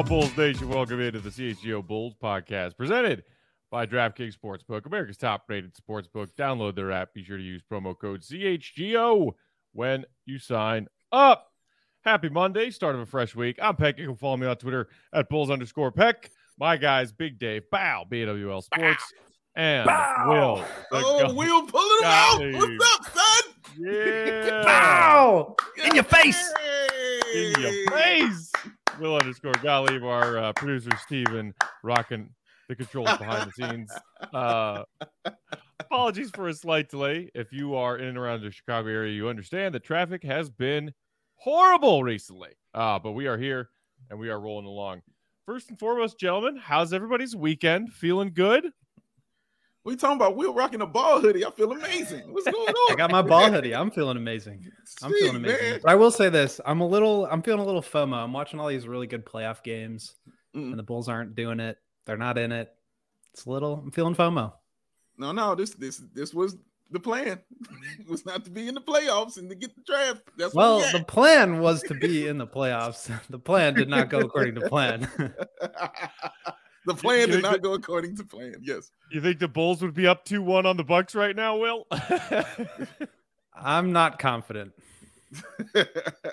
Now, Bulls Nation, welcome into the CHGO Bulls podcast presented by DraftKings Sportsbook, America's top-rated sportsbook. Download their app. Be sure to use promo code CHGO when you sign up. Happy Monday, start of a fresh week. I'm Peck. You can follow me on Twitter at Bulls_Peck. My guys, Big Dave, Bow, BWL Sports, and Bow. Will. Will pulling him out. What's up, son? Yeah. Bow. In your face. In your face. Will_Gottlieb, our producer, Steven, rocking the controls behind the scenes. Apologies for a slight delay. If you are in and around the Chicago area, you understand that traffic has been horrible recently. But we are here, and we are rolling along. First and foremost, gentlemen, how's everybody's weekend? Feeling good? What are you talking about? Will rocking a ball hoodie. I feel amazing. What's going on? I got my ball hoodie. I'm feeling amazing. I'm feeling amazing. But I will say this. I'm feeling a little FOMO. I'm watching all these really good playoff games, and the Bulls aren't doing it. They're not in it. I'm feeling FOMO. No, this was the plan. It was not to be in the playoffs and to get the draft. That's the plan was to be in the playoffs. The plan did not go according to plan. The plan did not go according to plan. Yes. You think the Bulls would be up 2-1 on the Bucks right now, Will? I'm not confident.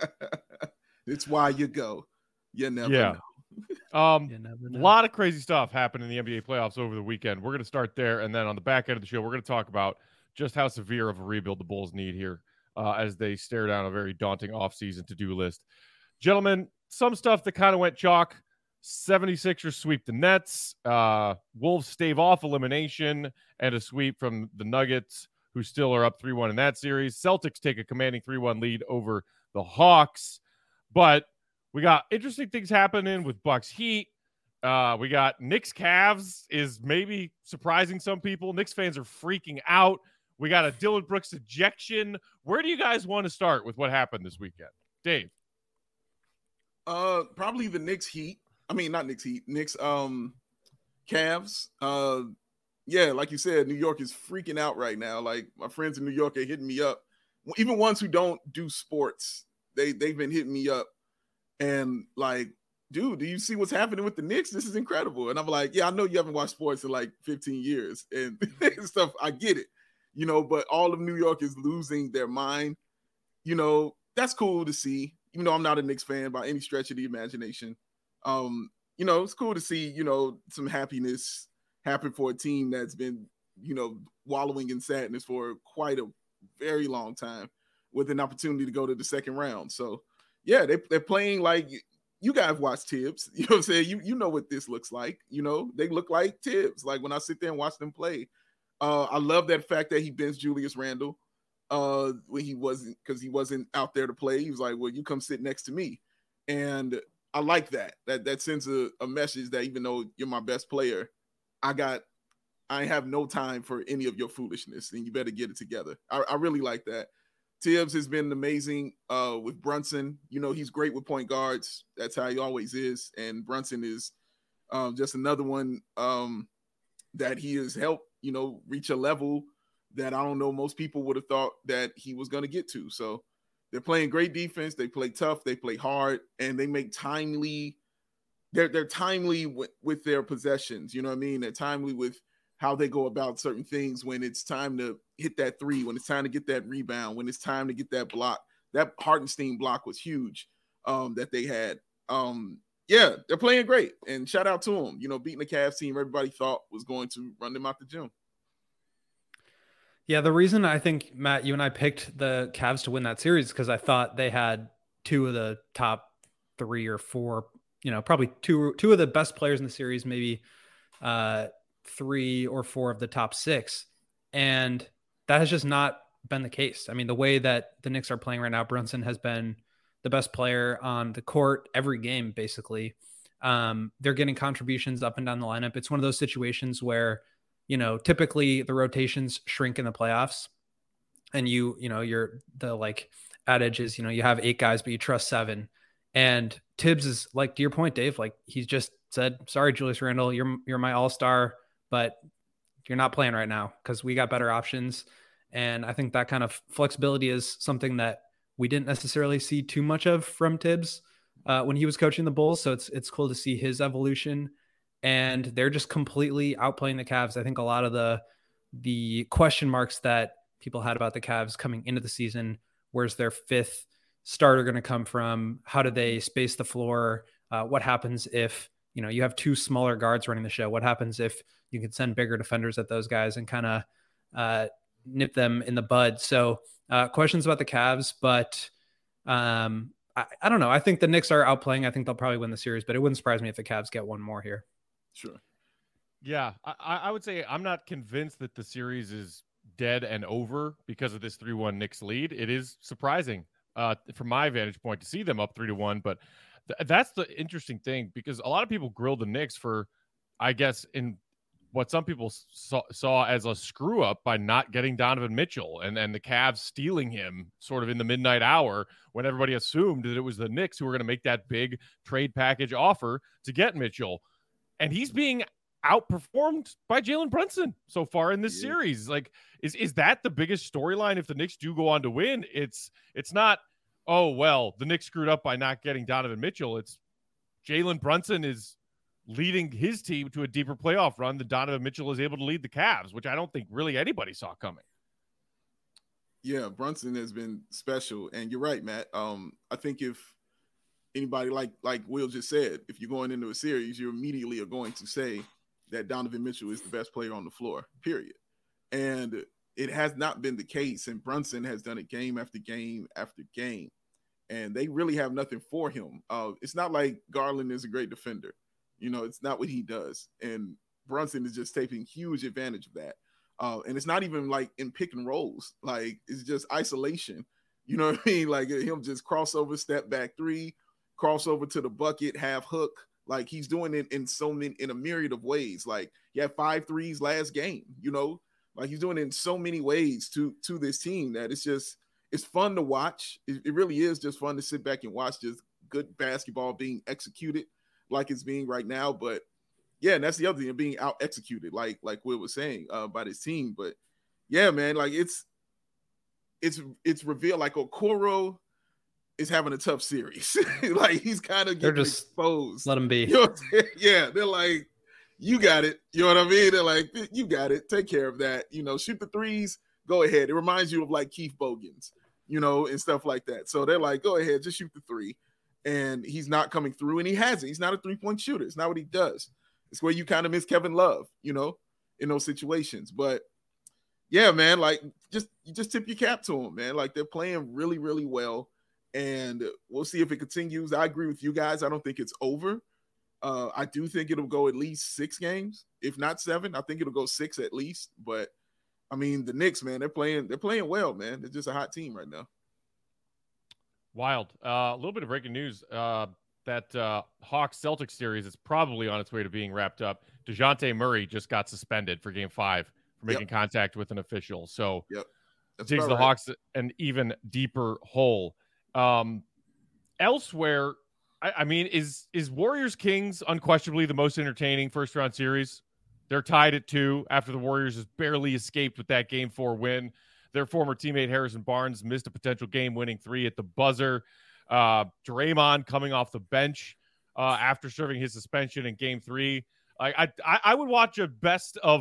It's why you go. You never know. A lot of crazy stuff happened in the NBA playoffs over the weekend. We're going to start there, and then on the back end of the show, we're going to talk about just how severe of a rebuild the Bulls need here as they stare down a very daunting offseason to-do list. Gentlemen, some stuff that kind of went chalk. 76ers sweep the Nets. Wolves stave off elimination and a sweep from the Nuggets, who still are up 3-1 in that series. Celtics take a commanding 3-1 lead over the Hawks. But we got interesting things happening with Bucks Heat. We got Knicks Cavs is maybe surprising some people. Knicks fans are freaking out. We got a Dillon Brooks ejection. Where do you guys want to start with what happened this weekend? Dave? Probably the Knicks Heat. I mean, not Knicks Heat. Knicks Cavs. Yeah, like you said, New York is freaking out right now. Like, my friends in New York are hitting me up. Even ones who don't do sports, they've been hitting me up. And like, dude, do you see what's happening with the Knicks? This is incredible. And I'm like, yeah, I know you haven't watched sports in like 15 years and stuff. I get it, but all of New York is losing their mind. That's cool to see, even though I'm not a Knicks fan by any stretch of the imagination. It's cool to see, some happiness happen for a team that's been, wallowing in sadness for quite a very long time with an opportunity to go to the second round. So, yeah, they're playing like you guys watch Tibbs. You know what I'm saying? You know what this looks like. They look like Tibbs. Like when I sit there and watch them play, I love that fact that he benched Julius Randle when he wasn't out there to play. He was like, well, you come sit next to me. And I like that. That sends a message that even though you're my best player, I have no time for any of your foolishness, and you better get it together. I really like that. Tibbs has been amazing with Brunson. He's great with point guards. That's how he always is. And Brunson is just another one that he has helped, reach a level that I don't know most people would have thought that he was going to get to. So they're playing great defense. They play tough. They play hard, and they make timely. They're timely with their possessions. You know what I mean? They're timely with how they go about certain things when it's time to hit that three, when it's time to get that rebound, when it's time to get that block. That Hartenstein block was huge that they had. Yeah, they're playing great, and shout out to them. Beating the Cavs team everybody thought was going to run them out the gym. Yeah, the reason I think, Matt, you and I picked the Cavs to win that series is because I thought they had two of the top 3 or 4, probably two of the best players in the series, maybe 3 or 4 of the top 6. And that has just not been the case. I mean, the way that the Knicks are playing right now, Brunson has been the best player on the court every game, basically. They're getting contributions up and down the lineup. It's one of those situations where, typically the rotations shrink in the playoffs, and you're the like adage is, you have 8 guys, but you trust 7. And Tibbs is like, to your point, Dave, like he's just said, sorry, Julius Randle, you're my all-star, but you're not playing right now because we got better options. And I think that kind of flexibility is something that we didn't necessarily see too much of from Tibbs when he was coaching the Bulls. So it's cool to see his evolution, and they're just completely outplaying the Cavs. I think a lot of the question marks that people had about the Cavs coming into the season, where's their fifth starter going to come from? How do they space the floor? What happens if, you have two smaller guards running the show? What happens if you can send bigger defenders at those guys and kind of nip them in the bud? So questions about the Cavs, but I don't know. I think the Knicks are outplaying. I think they'll probably win the series, but it wouldn't surprise me if the Cavs get one more here. Sure. Yeah, I would say I'm not convinced that the series is dead and over because of this 3-1 Knicks lead. It is surprising from my vantage point to see them up 3-1, but that's the interesting thing, because a lot of people grilled the Knicks for, I guess, in what some people saw as a screw up by not getting Donovan Mitchell and the Cavs stealing him sort of in the midnight hour when everybody assumed that it was the Knicks who were going to make that big trade package offer to get Mitchell. And he's being outperformed by Jalen Brunson so far in this series. Like, is that the biggest storyline if the Knicks do go on to win? It's not, oh, well, the Knicks screwed up by not getting Donovan Mitchell. It's Jalen Brunson is leading his team to a deeper playoff run than Donovan Mitchell is able to lead the Cavs, which I don't think really anybody saw coming. Yeah, Brunson has been special. And you're right, Matt. I think if anybody, like Will just said, if you're going into a series, you immediately are going to say that Donovan Mitchell is the best player on the floor, period. And it has not been the case. And Brunson has done it game after game after game. And they really have nothing for him. It's not like Garland is a great defender. It's not what he does. And Brunson is just taking huge advantage of that. And it's not even like in pick and rolls. Like, it's just isolation. You know what I mean? Like, him just crossover, step back three, crossover to the bucket, half hook. Like, he's doing it in a myriad of ways. Like, he had 5 threes last game, like he's doing it in so many ways to this team that it's fun to watch. It really is just fun to sit back and watch just good basketball being executed like it's being right now. But yeah, and that's the other thing, being out executed, like Will was saying, by this team. But yeah, man, like it's revealed like Okoro is having a tough series. Like, he's kind of getting exposed. Let him be. Yeah, they're like, you got it. You know what I mean? They're like, you got it. Take care of that. Shoot the threes. Go ahead. It reminds you of like Keith Bogans, and stuff like that. So they're like, go ahead, just shoot the three. And he's not coming through, and he hasn't. He's not a three-point shooter. It's not what he does. It's where you kind of miss Kevin Love, in those situations. But yeah, man, like, you just tip your cap to him, man. Like, they're playing really, really well. And we'll see if it continues. I agree with you guys. I don't think it's over. I do think it'll go at least 6 games, if not 7. I think it'll go 6 at least. But I mean, the Knicks, man, they're playing well, man. They're just a hot team right now. Wild. A little bit of breaking news. That Hawks-Celtics series is probably on its way to being wrapped up. DeJounte Murray just got suspended for Game 5 for making contact with an official. So digs the Hawks an even deeper hole. Elsewhere, I mean, is Warriors-Kings unquestionably the most entertaining first-round series? They're tied at 2 after the Warriors has barely escaped with that Game 4 win. Their former teammate Harrison Barnes missed a potential game-winning 3 at the buzzer. Draymond coming off the bench after serving his suspension in Game 3. I would watch a best of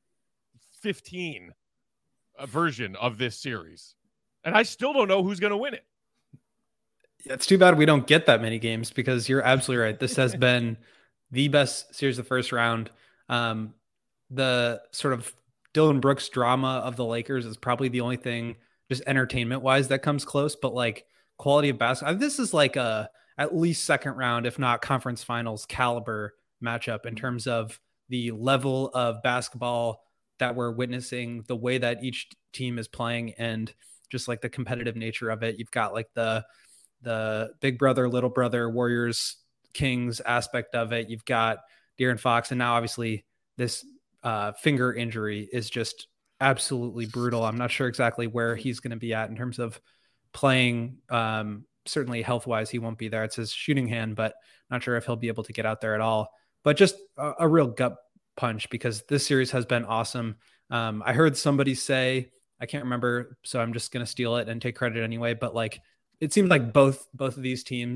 15 version of this series, and I still don't know who's going to win it. It's too bad we don't get that many games, because you're absolutely right. This has been the best series of the first round. The sort of Dillon Brooks drama of the Lakers is probably the only thing just entertainment wise that comes close, but like quality of basketball, this is like at least second round, if not conference finals caliber matchup in terms of the level of basketball that we're witnessing, the way that each team is playing, and just like the competitive nature of it. You've got like the big brother, little brother, Warriors, Kings aspect of it. You've got De'Aaron Fox, and now obviously this finger injury is just absolutely brutal. I'm not sure exactly where he's going to be at in terms of playing. Certainly health-wise, he won't be there. It's his shooting hand, but not sure if he'll be able to get out there at all. But just a real gut punch, because this series has been awesome. I heard somebody say, I can't remember, so I'm just going to steal it and take credit anyway, but like, it seemed like both of these teams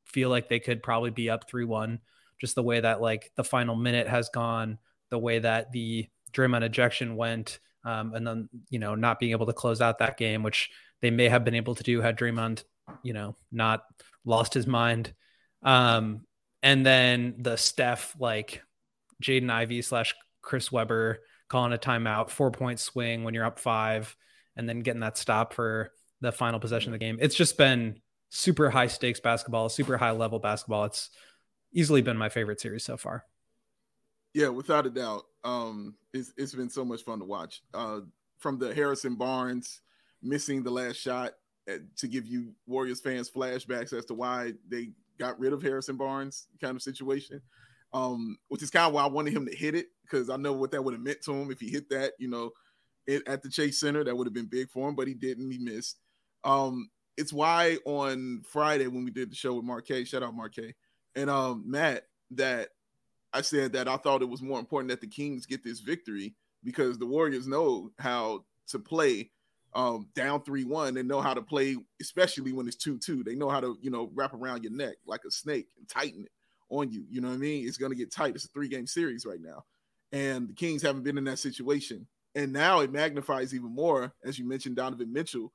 feel like they could probably be up 3-1, just the way that like the final minute has gone, the way that the Draymond ejection went, and then, not being able to close out that game, which they may have been able to do had Draymond, not lost his mind. And then the Steph, like Jaden Ivey / Chris Webber calling a timeout, 4-point swing when you're up 5, and then getting that stop for the final possession of the game. It's just been super high stakes basketball, super high level basketball. It's easily been my favorite series so far. Yeah, without a doubt. It's been so much fun to watch. From the Harrison Barnes missing the last shot to give you Warriors fans flashbacks as to why they got rid of Harrison Barnes kind of situation, which is kind of why I wanted him to hit it, because I know what that would have meant to him if he hit that, at the Chase Center. That would have been big for him, but he didn't. He missed. It's why on Friday when we did the show with Marquet, shout out Marquet, and Matt, that I said that I thought it was more important that the Kings get this victory because the Warriors know how to play down 3-1 and know how to play, especially when it's 2-2. They know how to, wrap around your neck like a snake and tighten it on you. You know what I mean? It's going to get tight. It's a 3-game series right now. And the Kings haven't been in that situation. And now it magnifies even more, as you mentioned, De'Aaron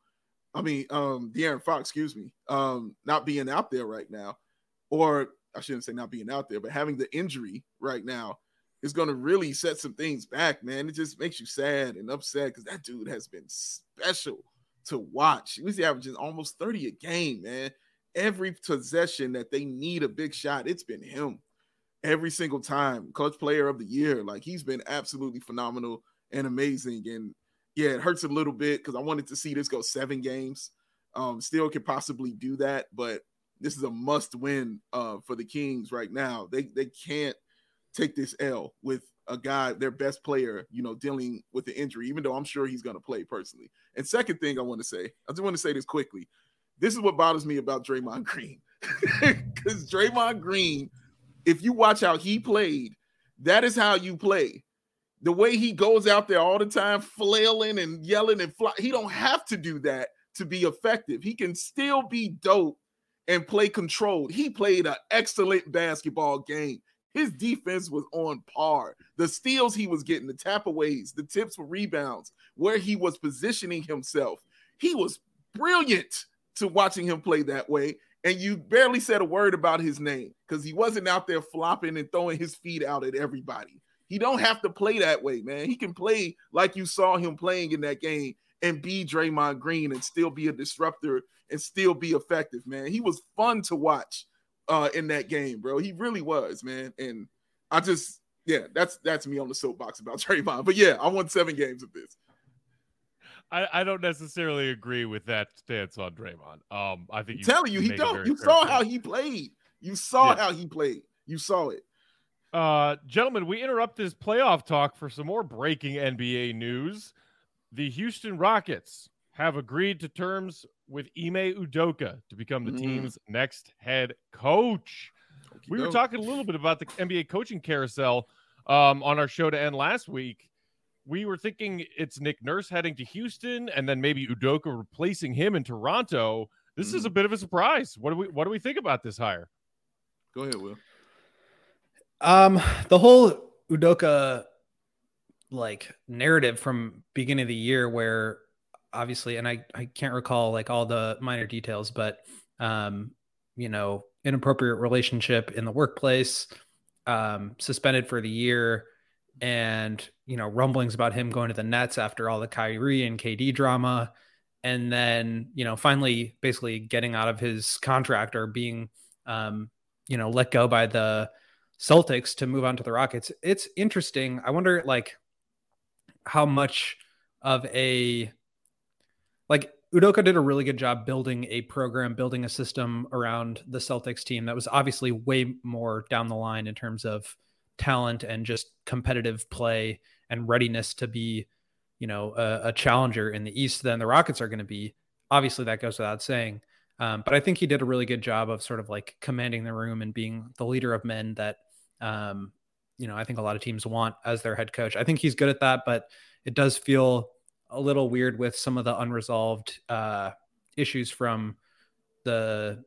Fox, not being out there right now. Or I shouldn't say not being out there, but having the injury right now is going to really set some things back, man. It just makes you sad and upset because that dude has been special to watch. He was averaging almost 30 a game, man. Every possession that they need a big shot, it's been him. Every single time. Clutch player of the year. Like, he's been absolutely phenomenal and amazing. And yeah, it hurts a little bit because I wanted to see this go 7 games. Still could possibly do that, but this is a must win for the Kings right now. They can't take this L with a guy, their best player, dealing with the injury, even though I'm sure he's going to play personally. And second thing I just want to say this quickly. This is what bothers me about Draymond Green. Because Draymond Green, if you watch how he played, that is how you play. The way he goes out there all the time, flailing and yelling and he don't have to do that to be effective. He can still be dope and play controlled. He played an excellent basketball game. His defense was on par. The steals he was getting, the tap-aways, the tips for rebounds, where he was positioning himself. He was brilliant to watching him play that way, and you barely said a word about his name because he wasn't out there flopping and throwing his feet out at everybody. He don't have to play that way, man. He can play like you saw him playing in that game and be Draymond Green and still be a disruptor and still be effective, man. He was fun to watch in that game, bro. He really was, man. And I just, that's me on the soapbox about Draymond. But yeah, I won 7 games of this. I don't necessarily agree with that stance on Draymond. I think I'm telling you, he don't. You saw how he played. You saw how he played. You saw it. Gentlemen, we interrupt this playoff talk for some more breaking NBA news. The Houston Rockets have agreed to terms with Ime Udoka to become the team's next head coach. We were talking a little bit about the NBA coaching carousel on our show to end last week. We were thinking it's Nick Nurse heading to Houston and then maybe Udoka replacing him in Toronto. This is a bit of a surprise. What do we think about this hire? Go ahead, Will. The whole Udoka narrative from beginning of the year where obviously, and I can't recall all the minor details, but inappropriate relationship in the workplace, suspended for the year, and rumblings about him going to the Nets after all the Kyrie and KD drama, and then finally basically getting out of his contract or being let go by the Celtics to move on to the Rockets. It's interesting. I wonder how much of Udoka did a really good job building a program, building a system around the Celtics team that was obviously way more down the line in terms of talent and just competitive play and readiness to be, a challenger in the East than the Rockets are going to be. Obviously that goes without saying. But I think he did a really good job of sort of commanding the room and being the leader of men that, I think a lot of teams want as their head coach. I think he's good at that, but it does feel a little weird with some of the unresolved issues from the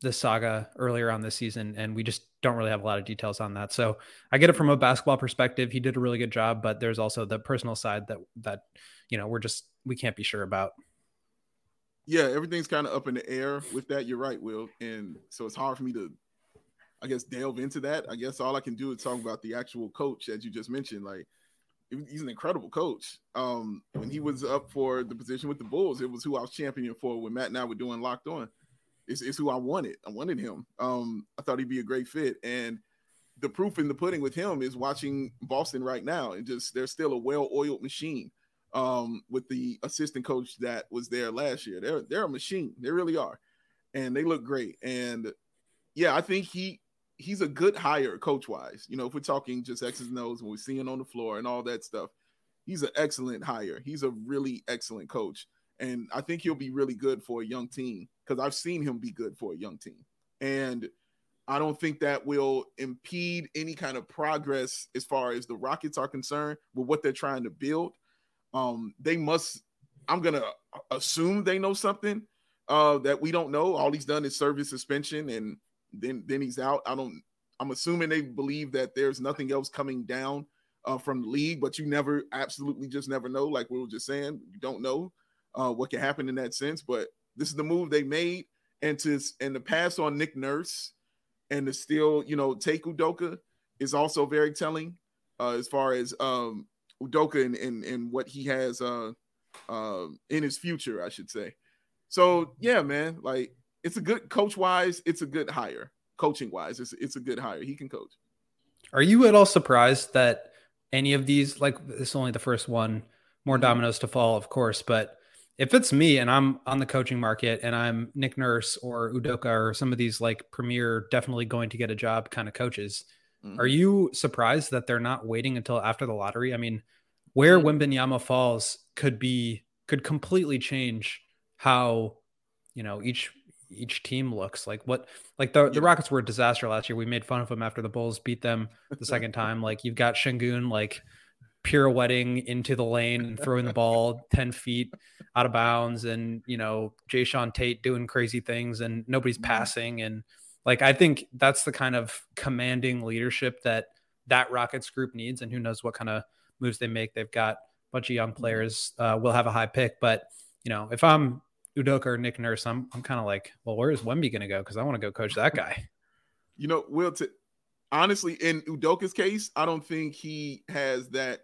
saga earlier on this season, and we just don't really have a lot of details on that. So I get it from a basketball perspective. He did a really good job, but there's also the personal side that we can't be sure about. Yeah, everything's kind of up in the air with that. You're right, Will. And so it's hard for me to, I guess, delve into that. I guess all I can do is talk about the actual coach that you just mentioned. Like, he's an incredible coach. When he was up for the position with the Bulls, it was who I was championing for when Matt and I were doing Locked On. It's who I wanted. I wanted him. I thought he'd be a great fit. And the proof in the pudding with him is watching Boston right now. And just, they're still a well-oiled machine. With the assistant coach that was there last year. They're a machine. They really are. And they look great. And yeah, I think he's a good hire coach-wise. You know, if we're talking just X's and O's when we're seeing on the floor and all that stuff, he's an excellent hire. He's a really excellent coach. And I think he'll be really good for a young team because I've seen him be good for a young team. And I don't think that will impede any kind of progress as far as the Rockets are concerned with what they're trying to build. They must, I'm going to assume they know something that we don't know. All he's done is serve his suspension and then he's out. I'm assuming they believe that there's nothing else coming down from the league, but you absolutely just never know. Like we were just saying, you don't know what can happen in that sense, but this is the move they made. And to pass on Nick Nurse and to still, take Udoka is also very telling as far as, Udoka and what he has in his future, I should say. So yeah, man, like it's a good coach-wise, it's a good hire. Coaching-wise, it's a good hire. He can coach. Are you at all surprised that any of these, like this is only the first one, more dominoes to fall, of course, but if it's me and I'm on the coaching market and I'm Nick Nurse or Udoka or some of these like premier, definitely going to get a job kind of coaches, are you surprised that they're not waiting until after the lottery? I mean, where Wembanyama falls could completely change how, each team looks. Like the Rockets were a disaster last year. We made fun of them after the Bulls beat them the second time. Like you've got Şengün like pirouetting into the lane and throwing the ball 10 feet out of bounds, and Jae'Sean Tate doing crazy things and nobody's passing. And like, I think that's the kind of commanding leadership that Rockets group needs. And who knows what kind of moves they make. They've got a bunch of young players. Will have a high pick, but if I'm Udoka or Nick Nurse, I'm kind of like, well, where is Wemby going to go? Because I want to go coach that guy. Will, honestly, in Udoka's case, I don't think he has that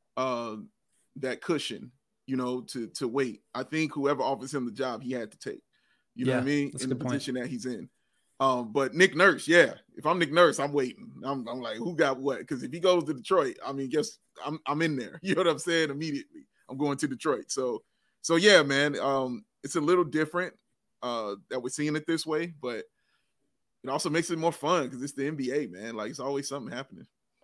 cushion, to wait. I think whoever offers him the job, he had to take. You know what I mean? In the position that he's in. But Nick Nurse, yeah. If I'm Nick Nurse, I'm waiting. I'm like, who got what? Because if he goes to Detroit, I mean, guess I'm in there. You know what I'm saying? Immediately, I'm going to Detroit. So yeah, man. It's a little different that we're seeing it this way, but it also makes it more fun because it's the NBA, man. Like it's always something happening.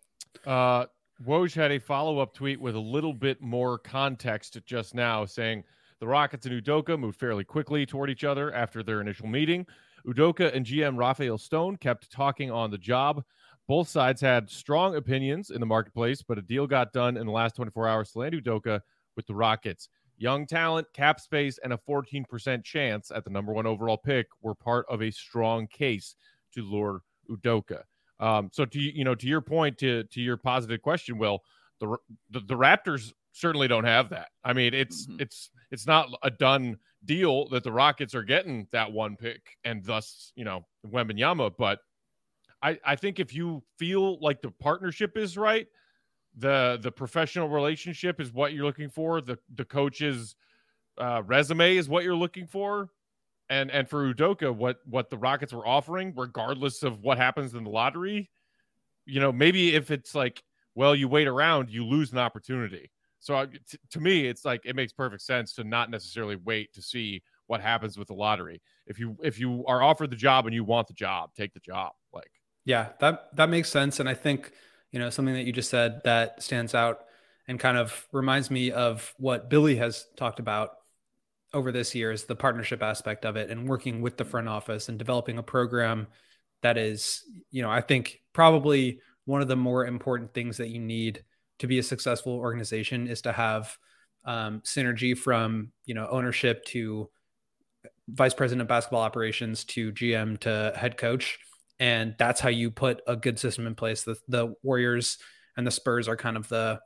Woj had a follow-up tweet with a little bit more context just now, saying the Rockets and Udoka moved fairly quickly toward each other after their initial meeting. Udoka and GM Rafael Stone kept talking on the job. Both sides had strong opinions in the marketplace, but a deal got done in the last 24 hours to land Udoka with the Rockets. Young talent, cap space, and a 14% chance at the number 1 overall pick were part of a strong case to lure Udoka. So to your point, to your positive question, Will, the Raptors certainly don't have that. I mean, it's not a done deal that the Rockets are getting that 1 pick and thus, Wembanyama. But I think if you feel like the partnership is right, the professional relationship is what you're looking for, the coach's resume is what you're looking for, and for Udoka, what the Rockets were offering, regardless of what happens in the lottery, maybe if it's like, well, you wait around, you lose an opportunity. So to me, it's like, it makes perfect sense to not necessarily wait to see what happens with the lottery. If you are offered the job and you want the job, take the job. Like, yeah, that makes sense. And I think, something that you just said that stands out and kind of reminds me of what Billy has talked about over this year is the partnership aspect of it and working with the front office and developing a program that is, I think probably one of the more important things that you need to be a successful organization is to have synergy from, ownership to vice president of basketball operations to GM to head coach. And that's how you put a good system in place. The Warriors and the Spurs are kind of the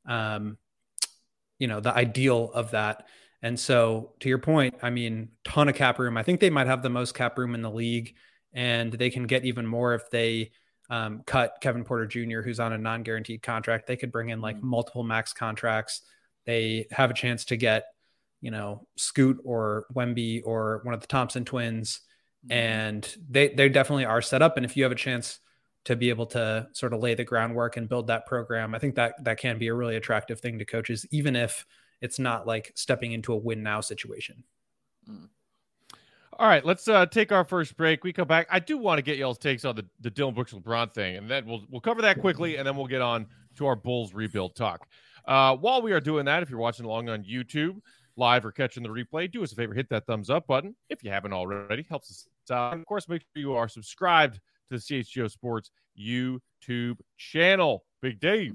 ideal of that. And so to your point, I mean, ton of cap room. I think they might have the most cap room in the league, and they can get even more if they cut Kevin Porter Jr., who's on a non-guaranteed contract. They could bring in like multiple max contracts. They have a chance to get, Scoot or Wemby or one of the Thompson twins. And they definitely are set up. And if you have a chance to be able to sort of lay the groundwork and build that program, I think that can be a really attractive thing to coaches, even if it's not like stepping into a win now situation. All right, let's take our first break. We come back. I do want to get y'all's takes on the Dillon Brooks LeBron thing, and then we'll cover that quickly, and then we'll get on to our Bulls rebuild talk. While we are doing that, if you're watching along on YouTube, live or catching the replay, do us a favor, hit that thumbs up button if you haven't already. Helps us out. And of course, make sure you are subscribed to the CHGO Sports YouTube channel. Big Dave.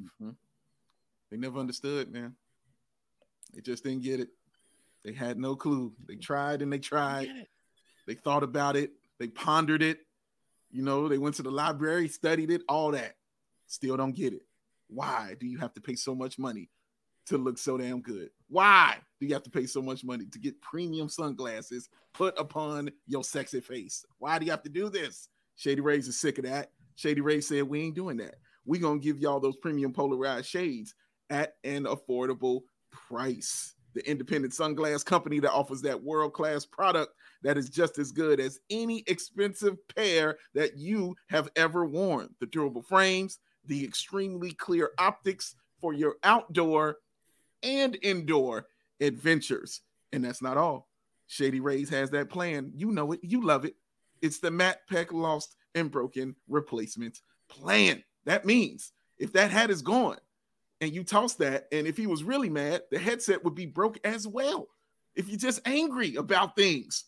They never understood, man. They just didn't get it. They had no clue. They tried and they tried. They thought about it. They pondered it. They went to the library, studied it, all that. Still don't get it. Why do you have to pay so much money to look so damn good? Why do you have to pay so much money to get premium sunglasses put upon your sexy face? Why do you have to do this? Shady Rays is sick of that. Shady Rays said, we ain't doing that. We're going to give y'all those premium polarized shades at an affordable price. The independent sunglass company that offers that world-class product that is just as good as any expensive pair that you have ever worn. The durable frames, the extremely clear optics for your outdoor and indoor adventures. And that's not all. Shady Rays has that plan. You know it. You love it. It's the Matt Peck Lost and Broken Replacement Plan. That means if that hat is gone and you toss that, and if he was really mad, the headset would be broke as well. If you're just angry about things,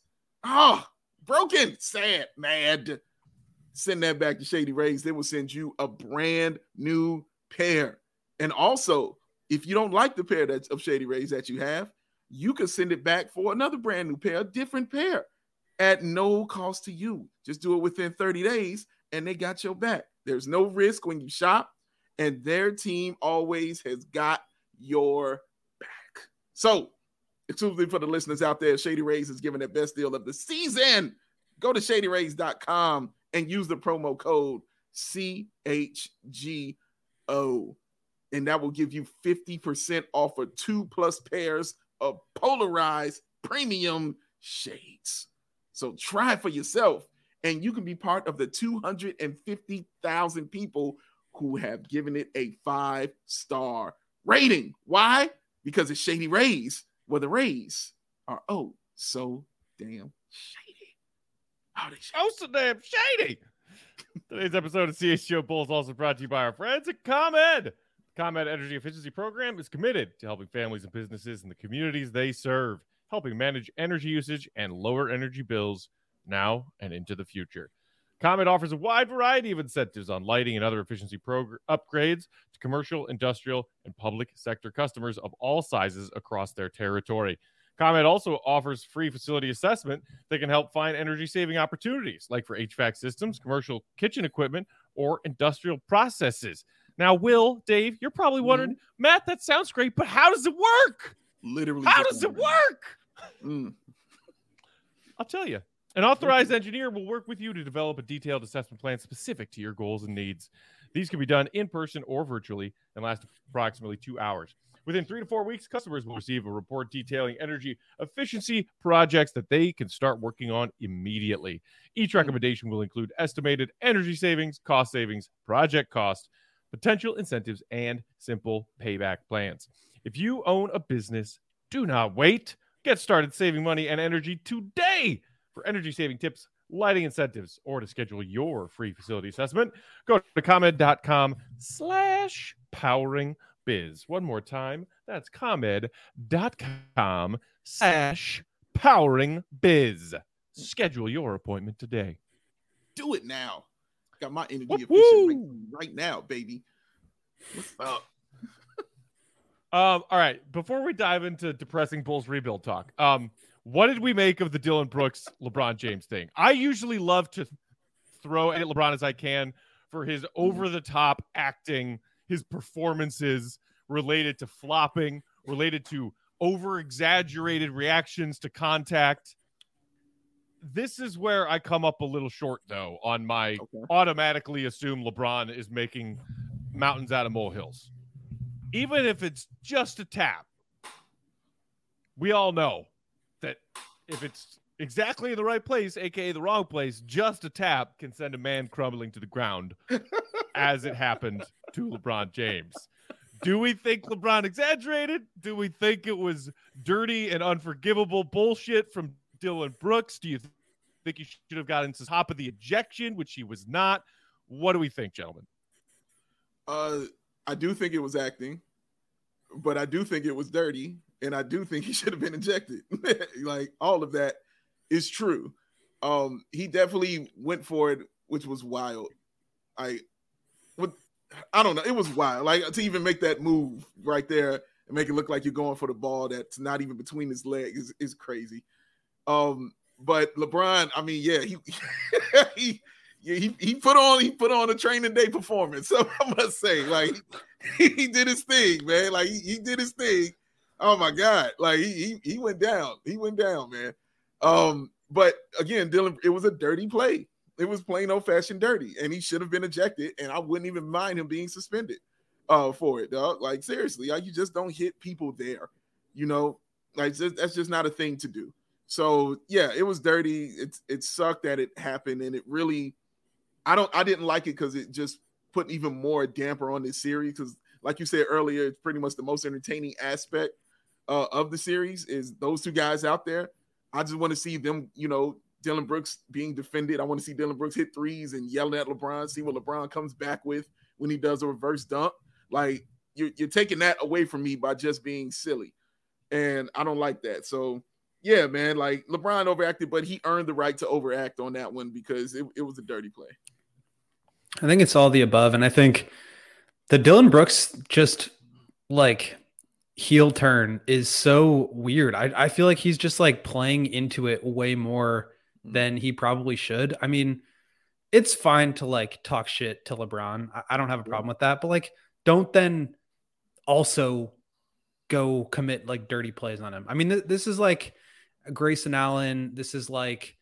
broken, sad, mad, send that back to Shady Rays. They will send you a brand new pair. And also, if you don't like the pair of Shady Rays that you have, you can send it back for another brand new pair, a different pair, at no cost to you. Just do it within 30 days, and they got your back. There's no risk when you shop, and their team always has got your back. So, exclusively for the listeners out there, Shady Rays is giving their best deal of the season. Go to shadyrays.com and use the promo code CHGO. And that will give you 50% off of 2+ pairs of polarized premium shades. So try it for yourself, and you can be part of the 250,000 people who have given it a 5-star rating. Why? Because it's Shady Rays, where the Rays are so damn shady. So damn shady. Today's episode of CHGO Bulls also brought to you by our friends at ComEd. ComEd Energy Efficiency Program is committed to helping families and businesses in the communities they serve, helping manage energy usage and lower energy bills now and into the future. ComEd offers a wide variety of incentives on lighting and other efficiency upgrades to commercial, industrial, and public sector customers of all sizes across their territory. ComEd also offers free facility assessment that can help find energy-saving opportunities, like for HVAC systems, commercial kitchen equipment, or industrial processes. Now, Will, Dave, you're probably wondering, Matt, that sounds great, but how does it work? Literally. How does it work? I'll tell you. An authorized engineer will work with you to develop a detailed assessment plan specific to your goals and needs. These can be done in person or virtually and last approximately 2 hours. Within 3 to 4 weeks, customers will receive a report detailing energy efficiency projects that they can start working on immediately. Each recommendation will include estimated energy savings, project cost, potential incentives, and simple payback plans. If you own a business, do not wait. Get started saving money and energy today. For energy saving tips, lighting incentives, or to schedule your free facility assessment, go to ComEd.com/poweringbiz. One more time, that's ComEd.com/poweringbiz. Schedule your appointment today. Do it now. Got my energy efficient right now, baby. What's up? All right. Before we dive into depressing Bulls rebuild talk, What did we make of the Dillon Brooks LeBron James thing? I usually love to throw at LeBron as I can for his over-the-top acting, his performances related to flopping, related to over-exaggerated reactions to contact. This is where I come up a little short, though, on my automatically assume LeBron is making mountains out of molehills. Even if it's just a tap, we all know that if it's exactly in the right place, aka the wrong place, just a tap can send a man crumbling to the ground, as it happened to LeBron James. Do we think LeBron exaggerated? Do we think it was dirty and unforgivable bullshit from Dillon Brooks? Do you think he should have gotten to the top of the ejection, which he was not? What do we think, gentlemen? I do think it was acting, but I do think it was dirty, and I do think he should have been ejected. Like, all of that is true. He definitely went for it, which was wild. I don't know. It was wild. Like, to even make that move right there and make it look like you're going for the ball that's not even between his legs is crazy. But LeBron, I mean, yeah, he put on a training day performance. So I must say, like, he did his thing, man. Like, he did his thing. Oh my God. Like, he went down. He went down, man. But again, Dillon, it was a dirty play. It was plain old fashioned dirty, and he should have been ejected. And I wouldn't even mind him being suspended for it, dog. Like, seriously, like, you just don't hit people there, you know. Like, that's just not a thing to do. So yeah, it was dirty. It sucked that it happened, and it really, I didn't like it because it just put even more damper on this series. Because, like you said earlier, it's pretty much the most entertaining aspect of the series is those two guys out there. I just want to see them, you know, Dillon Brooks being defended. I want to see Dillon Brooks hit threes and yelling at LeBron, see what LeBron comes back with when he does a reverse dunk. Like, you're taking that away from me by just being silly. And I don't like that. So, yeah, man, like, LeBron overacted, but he earned the right to overact on that one because it was a dirty play. I think it's all the above. And I think the Dillon Brooks just, like, heel turn is so weird. I feel like he's just, like, playing into it way more than he probably should. I mean, it's fine to, like, talk shit to LeBron. I don't have a problem with that, but, like, don't then also go commit, like, dirty plays on him. I mean, this is like Grayson Allen. This is like,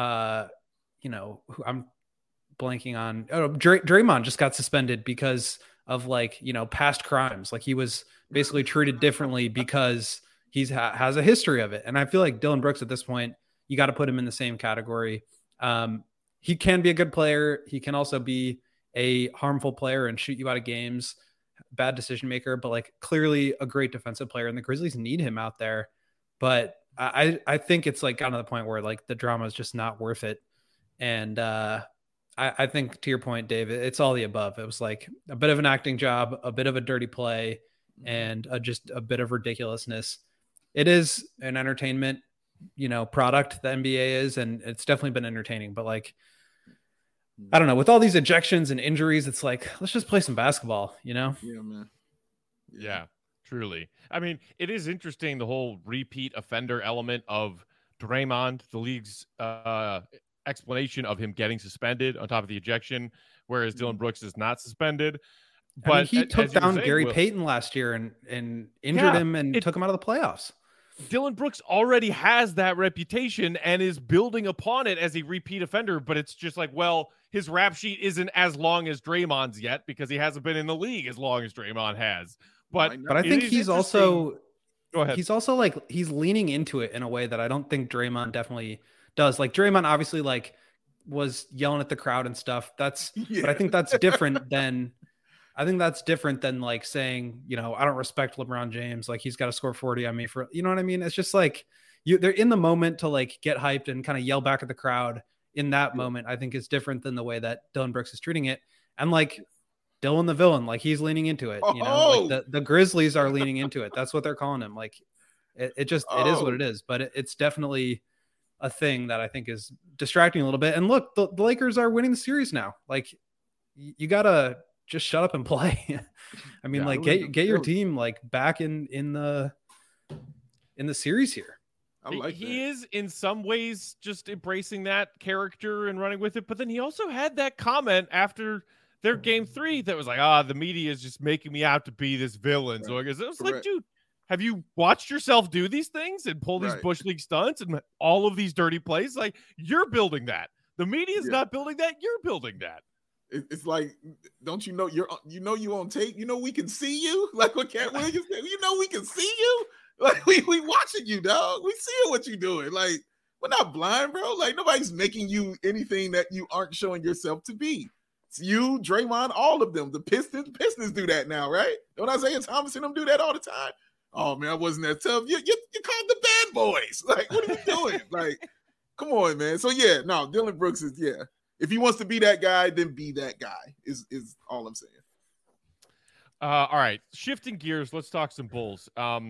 you know, who I'm blanking on. Oh, Draymond just got suspended because of, like, you know, past crimes. Like, he was basically treated differently because he's has a history of it. And I feel like Dillon Brooks at this point, you got to put him in the same category. He can be a good player. He can also be a harmful player and shoot you out of games, bad decision maker, but, like, clearly a great defensive player, and the Grizzlies need him out there. But I think it's, like, gotten to the point where, like, the drama is just not worth it. And I think, to your point, Dave, it's all the above. It was, like, a bit of an acting job, a bit of a dirty play, and just a bit of ridiculousness. It is an entertainment, you know, product, the NBA is, and it's definitely been entertaining. But, like, I don't know, with all these ejections and injuries, it's like, let's just play some basketball, you know? Yeah, man. Yeah, truly. I mean, it is interesting, the whole repeat offender element of Draymond, the league's explanation of him getting suspended on top of the ejection, whereas Dillon Brooks is not suspended. But I mean, he took down Gary Payton last year and injured him and took him out of the playoffs. Dillon Brooks already has that reputation and is building upon it as a repeat offender, but it's just like, well, his rap sheet isn't as long as Draymond's yet because he hasn't been in the league as long as Draymond has. But I think he's also, go ahead. He's also, like, he's leaning into it in a way that I don't think Draymond definitely does. Like, Draymond obviously, like, was yelling at the crowd and stuff. But I think that's different than, like, saying, you know, I don't respect LeBron James. Like, he's got to score 40 on me for, you know what I mean? It's just like they're in the moment to, like, get hyped and kind of yell back at the crowd in that moment. I think is different than the way that Dillon Brooks is treating it. And, like, Dylan the villain, like, he's leaning into it, you know, like the Grizzlies are leaning into it. That's what they're calling him. Like, it is what it is, but it's definitely a thing that I think is distracting a little bit. And look, the Lakers are winning the series now. Like, you gotta just shut up and play. I mean, like, get your team, like, back in the series here. I like he is in some ways just embracing that character and running with it. But then he also had that comment after their game 3 that was like, the media is just making me out to be this villain. Right. So it was like, dude, have you watched yourself do these things and pull these Bush League stunts and all of these dirty plays? Like, you're building that. The media is not building that. You're building that. It's like, don't you know you on tape? You know we can see you. Like what Cat Williams said. You know we can see you. Like we watching you, dog. We see what you're doing. Like we're not blind, bro. Like nobody's making you anything that you aren't showing yourself to be. It's you, Draymond, all of them. The Pistons do that now, right? Don't Isaiah Thomas and them do that all the time? Oh man, I wasn't that tough. You called the bad boys. Like what are you doing? Like, come on, man. So yeah, no, Dillon Brooks is If he wants to be that guy, then be that guy. Is all I'm saying. All right, shifting gears. Let's talk some Bulls.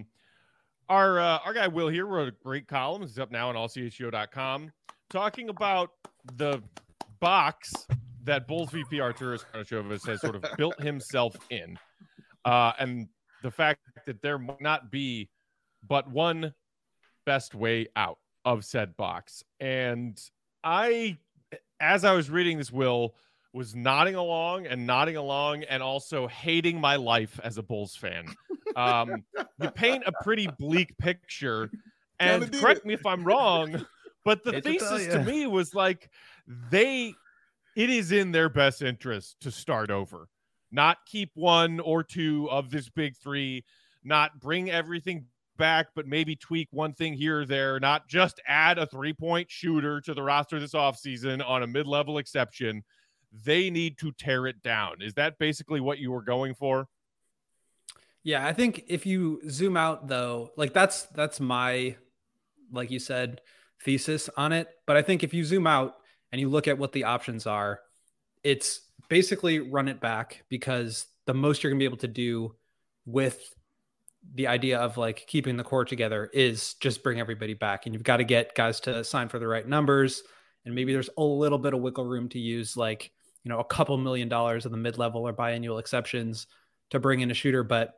Our guy Will here wrote a great column. It's up now on allchgo.com talking about the box that Bulls VP Arturas Karnisovas has sort of built himself in, and the fact that there might not be but one best way out of said box. And as I was reading this, Will was nodding along and also hating my life as a Bulls fan. You paint a pretty bleak picture, and correct me if I'm wrong, but the thesis to me was like it is in their best interest to start over, not keep one or two of this big 3, not bring everything back, but maybe tweak one thing here or there, not just add a 3-point shooter to the roster this offseason on a mid-level exception. They need to tear it down. Is that basically what you were going for? Yeah, I think if you zoom out though, like that's my, like you said, thesis on it. But I think if you zoom out and you look at what the options are, it's basically run it back, because the most you're gonna be able to do with the idea of like keeping the core together is just bring everybody back. And you've got to get guys to sign for the right numbers. And maybe there's a little bit of wiggle room to use like, a couple $1 million of the mid-level or biannual exceptions to bring in a shooter. But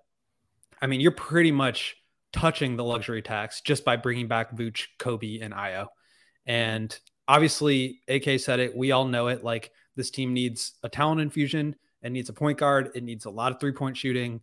I mean, you're pretty much touching the luxury tax just by bringing back Vooch, Kobe, and Ayo. And obviously, AK said it. We all know it. Like, this team needs a talent infusion. It needs a point guard. It needs a lot of 3-point shooting.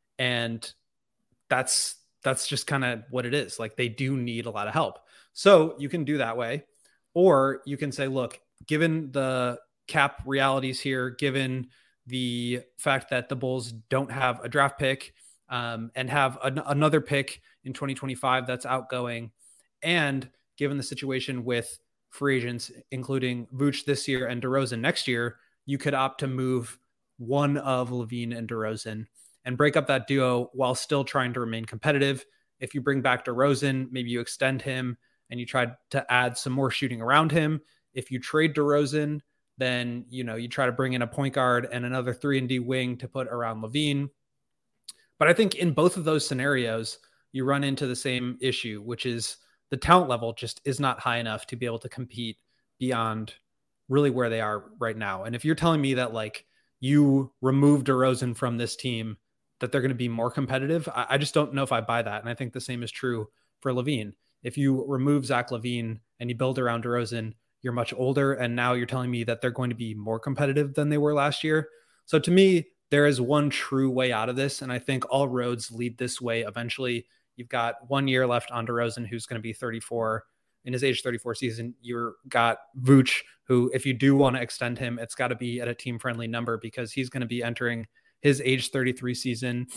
And that's just kind of what it is. Like, they do need a lot of help. So you can do that way. Or you can say, look, given the cap realities here, given the fact that the Bulls don't have a draft pick and have another pick in 2025 that's outgoing, and given the situation with free agents, including Vooch this year and DeRozan next year, you could opt to move one of LaVine and DeRozan and break up that duo while still trying to remain competitive. If you bring back DeRozan, maybe you extend him and you try to add some more shooting around him. If you trade DeRozan, then, you try to bring in a point guard and another 3-and-D wing to put around LaVine. But I think in both of those scenarios, you run into the same issue, which is the talent level just is not high enough to be able to compete beyond really where they are right now. And if you're telling me that like you remove DeRozan from this team, that they're going to be more competitive, I just don't know if I buy that. And I think the same is true for LaVine. If you remove Zach LaVine and you build around DeRozan, you're much older. And now you're telling me that they're going to be more competitive than they were last year. So to me, there is one true way out of this. And I think all roads lead this way. Eventually, you've got 1 year left on DeRozan, who's going to be 34 in his age 34 season. You've got Vooch, who, if you do want to extend him, it's got to be at a team friendly number because he's going to be entering his age 33 season.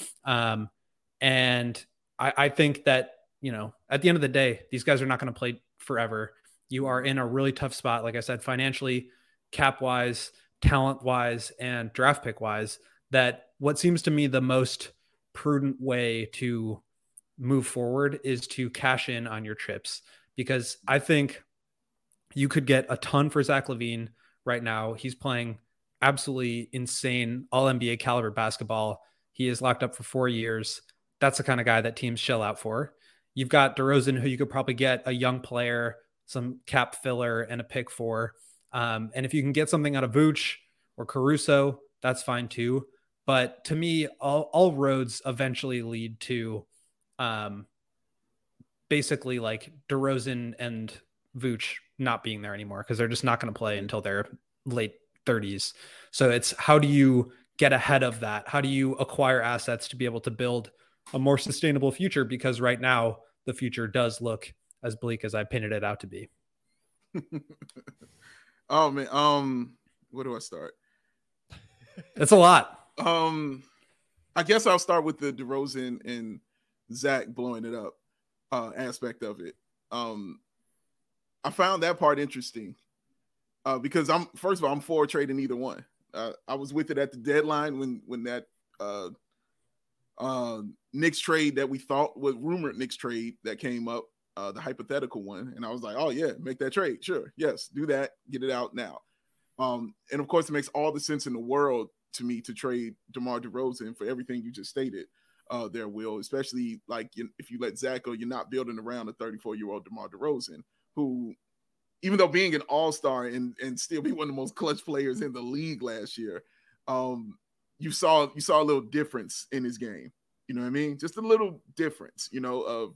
And I think that, at the end of the day, these guys are not going to play forever. You are in a really tough spot, like I said, financially, cap wise, talent wise, and draft pick wise, that what seems to me the most prudent way to move forward is to cash in on your chips, because I think you could get a ton for Zach LaVine right now. He's playing absolutely insane all NBA caliber basketball. He is locked up for 4 years. That's the kind of guy that teams shell out for. You've got DeRozan, who you could probably get a young player, some cap filler, and a pick for. And if you can get something out of Vooch or Caruso, that's fine too. But to me, all roads eventually lead to basically like DeRozan and Vooch not being there anymore because they're just not going to play until their late 30s. So it's how do you get ahead of that? How do you acquire assets to be able to build a more sustainable future? Because right now the future does look as bleak as I painted it out to be. Oh man, where do I start? It's a lot. I guess I'll start with the DeRozan and Zach blowing it up aspect of it. I found that part interesting because I'm for trading either one. I was with it at the deadline when that Knicks trade that we thought was rumored Knicks trade that came up, the hypothetical one, and I was like, oh yeah, make that trade, sure, yes, do that, get it out now. And of course, it makes all the sense in the world to me to trade DeMar DeRozan for everything you just stated there, Will, especially like if you let Zach go, you're not building around a 34-year-old DeMar DeRozan who, even though being an all-star and still be one of the most clutch players in the league last year, you saw a little difference in his game. You know what I mean? Just a little difference, of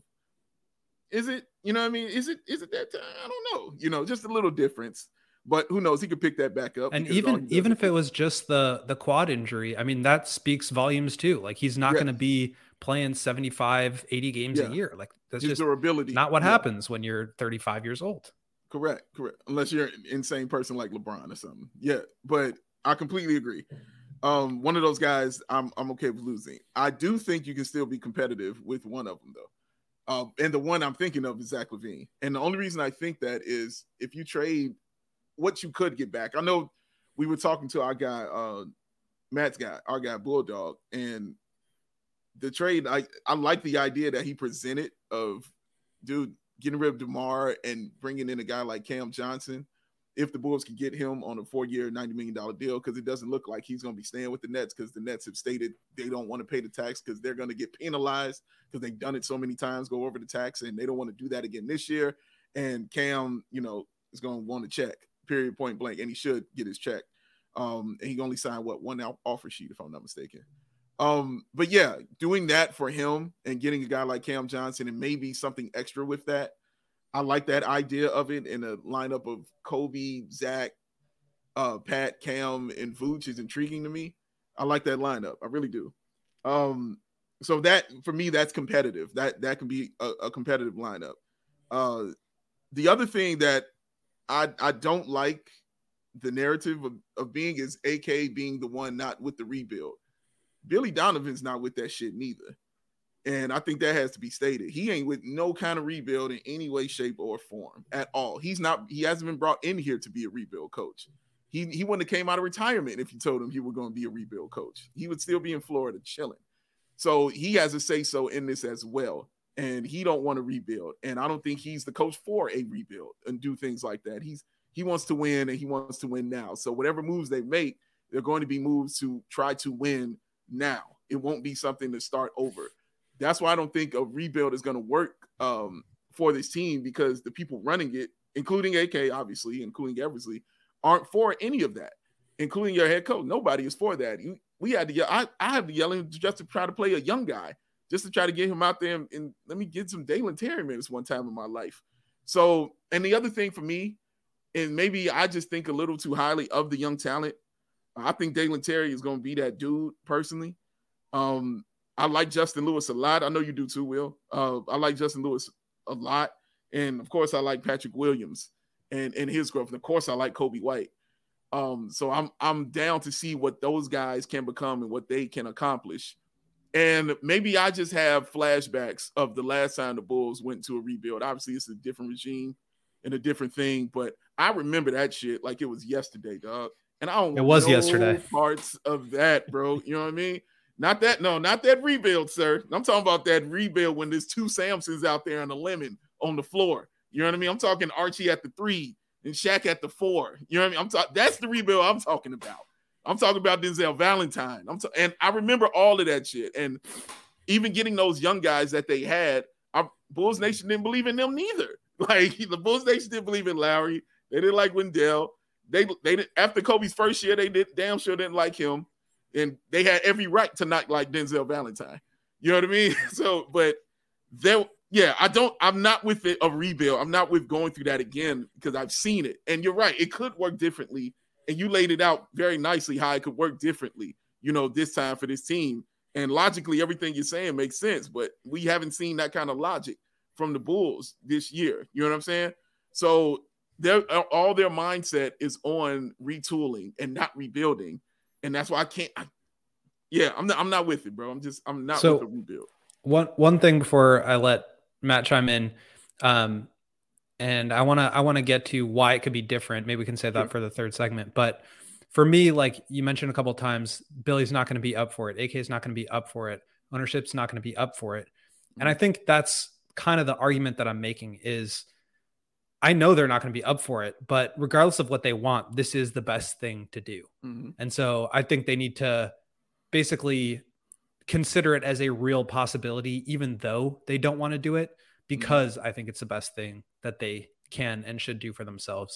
is it, you know what I mean? Is it that time? I don't know, just a little difference. But who knows? He could pick that back up. And even if it was just the quad injury, I mean, that speaks volumes too. Like he's not going to be playing 75, 80 games a year. Like that's just durability. Not what happens when you're 35 years old. Correct. Unless you're an insane person like LeBron or something. Yeah, but I completely agree. One of those guys I'm okay with losing. I do think you can still be competitive with one of them though. And the one I'm thinking of is Zach LaVine. And the only reason I think that is if you trade what you could get back. I know we were talking to our guy, Matt's guy, our guy Bulldog, and the trade, I like the idea that he presented of, dude, getting rid of DeMar and bringing in a guy like Cam Johnson, if the Bulls could get him on a 4-year, $90 million deal, because it doesn't look like he's going to be staying with the Nets because the Nets have stated they don't want to pay the tax because they're going to get penalized because they've done it so many times, go over the tax, and they don't want to do that again this year. And Cam, is going to want to check. Period, point blank, and he should get his check. And he only signed one offer sheet, if I'm not mistaken. But yeah, doing that for him and getting a guy like Cam Johnson and maybe something extra with that, I like that idea of it. In a lineup of Kobe, Zach, Pat, Cam, and Vooch is intriguing to me. I like that lineup, I really do. So that for me, that's competitive. That can be a competitive lineup. The other thing that I don't like the narrative of being is AK being the one not with the rebuild. Billy Donovan's not with that shit neither. And I think that has to be stated. He ain't with no kind of rebuild in any way, shape, or form at all. He hasn't been brought in here to be a rebuild coach. He wouldn't have came out of retirement if you told him he was going to be a rebuild coach. He would still be in Florida chilling. So he has a say-so in this as well. And he don't want to rebuild. And I don't think he's the coach for a rebuild and do things like that. He wants to win, and he wants to win now. So whatever moves they make, they're going to be moves to try to win now. It won't be something to start over. That's why I don't think a rebuild is going to work for this team, because the people running it, including AK, obviously, including Eversley, aren't for any of that, including your head coach. Nobody is for that. We had to yell. I have to yell just to try to play a young guy, just to try to get him out there and let me get some Dalen Terry minutes one time in my life. So, and the other thing for me, and maybe I just think a little too highly of the young talent, I think Dalen Terry is going to be that dude personally. I like Justin Lewis a lot. I know you do too, Will. I like Justin Lewis a lot. And, of course, I like Patrick Williams and his growth. And, of course, I like Kobe White. So I'm down to see what those guys can become and what they can accomplish. And maybe I just have flashbacks of the last time the Bulls went to a rebuild. Obviously, it's a different regime and a different thing, but I remember that shit like it was yesterday, dog. And I don't know yesterday parts of that, bro. You know what I mean? Not that rebuild, sir. I'm talking about that rebuild when there's two Samsons out there on the lemon on the floor. You know what I mean? I'm talking Archie at the 3 and Shaq at the 4. You know what I mean? That's the rebuild I'm talking about. I'm talking about Denzel Valentine. And I remember all of that shit. And even getting those young guys that they had, Bulls Nation didn't believe in them neither. Like, the Bulls Nation didn't believe in Lowry. They didn't like Wendell. They after Kobe's first year, they damn sure didn't like him. And they had every right to not like Denzel Valentine. You know what I mean? So, but Yeah, I'm not with a rebuild. I'm not with going through that again because I've seen it. And you're right. It could work differently. And you laid it out very nicely how it could work differently, this time for this team. And logically, everything you're saying makes sense. But we haven't seen that kind of logic from the Bulls this year. You know what I'm saying? So all their mindset is on retooling and not rebuilding. And that's why I'm not with it, bro. I'm not with the rebuild. One thing before I let Matt chime in, and I want to get to why it could be different. Maybe we can save that for the third segment. But for me, like you mentioned a couple of times, Billy's not going to be up for it. AK is not going to be up for it. Ownership's not going to be up for it. And I think that's kind of the argument that I'm making is I know they're not going to be up for it, but regardless of what they want, this is the best thing to do. Mm-hmm. And so I think they need to basically consider it as a real possibility, even though they don't want to do it, because I think it's the best thing that they can and should do for themselves.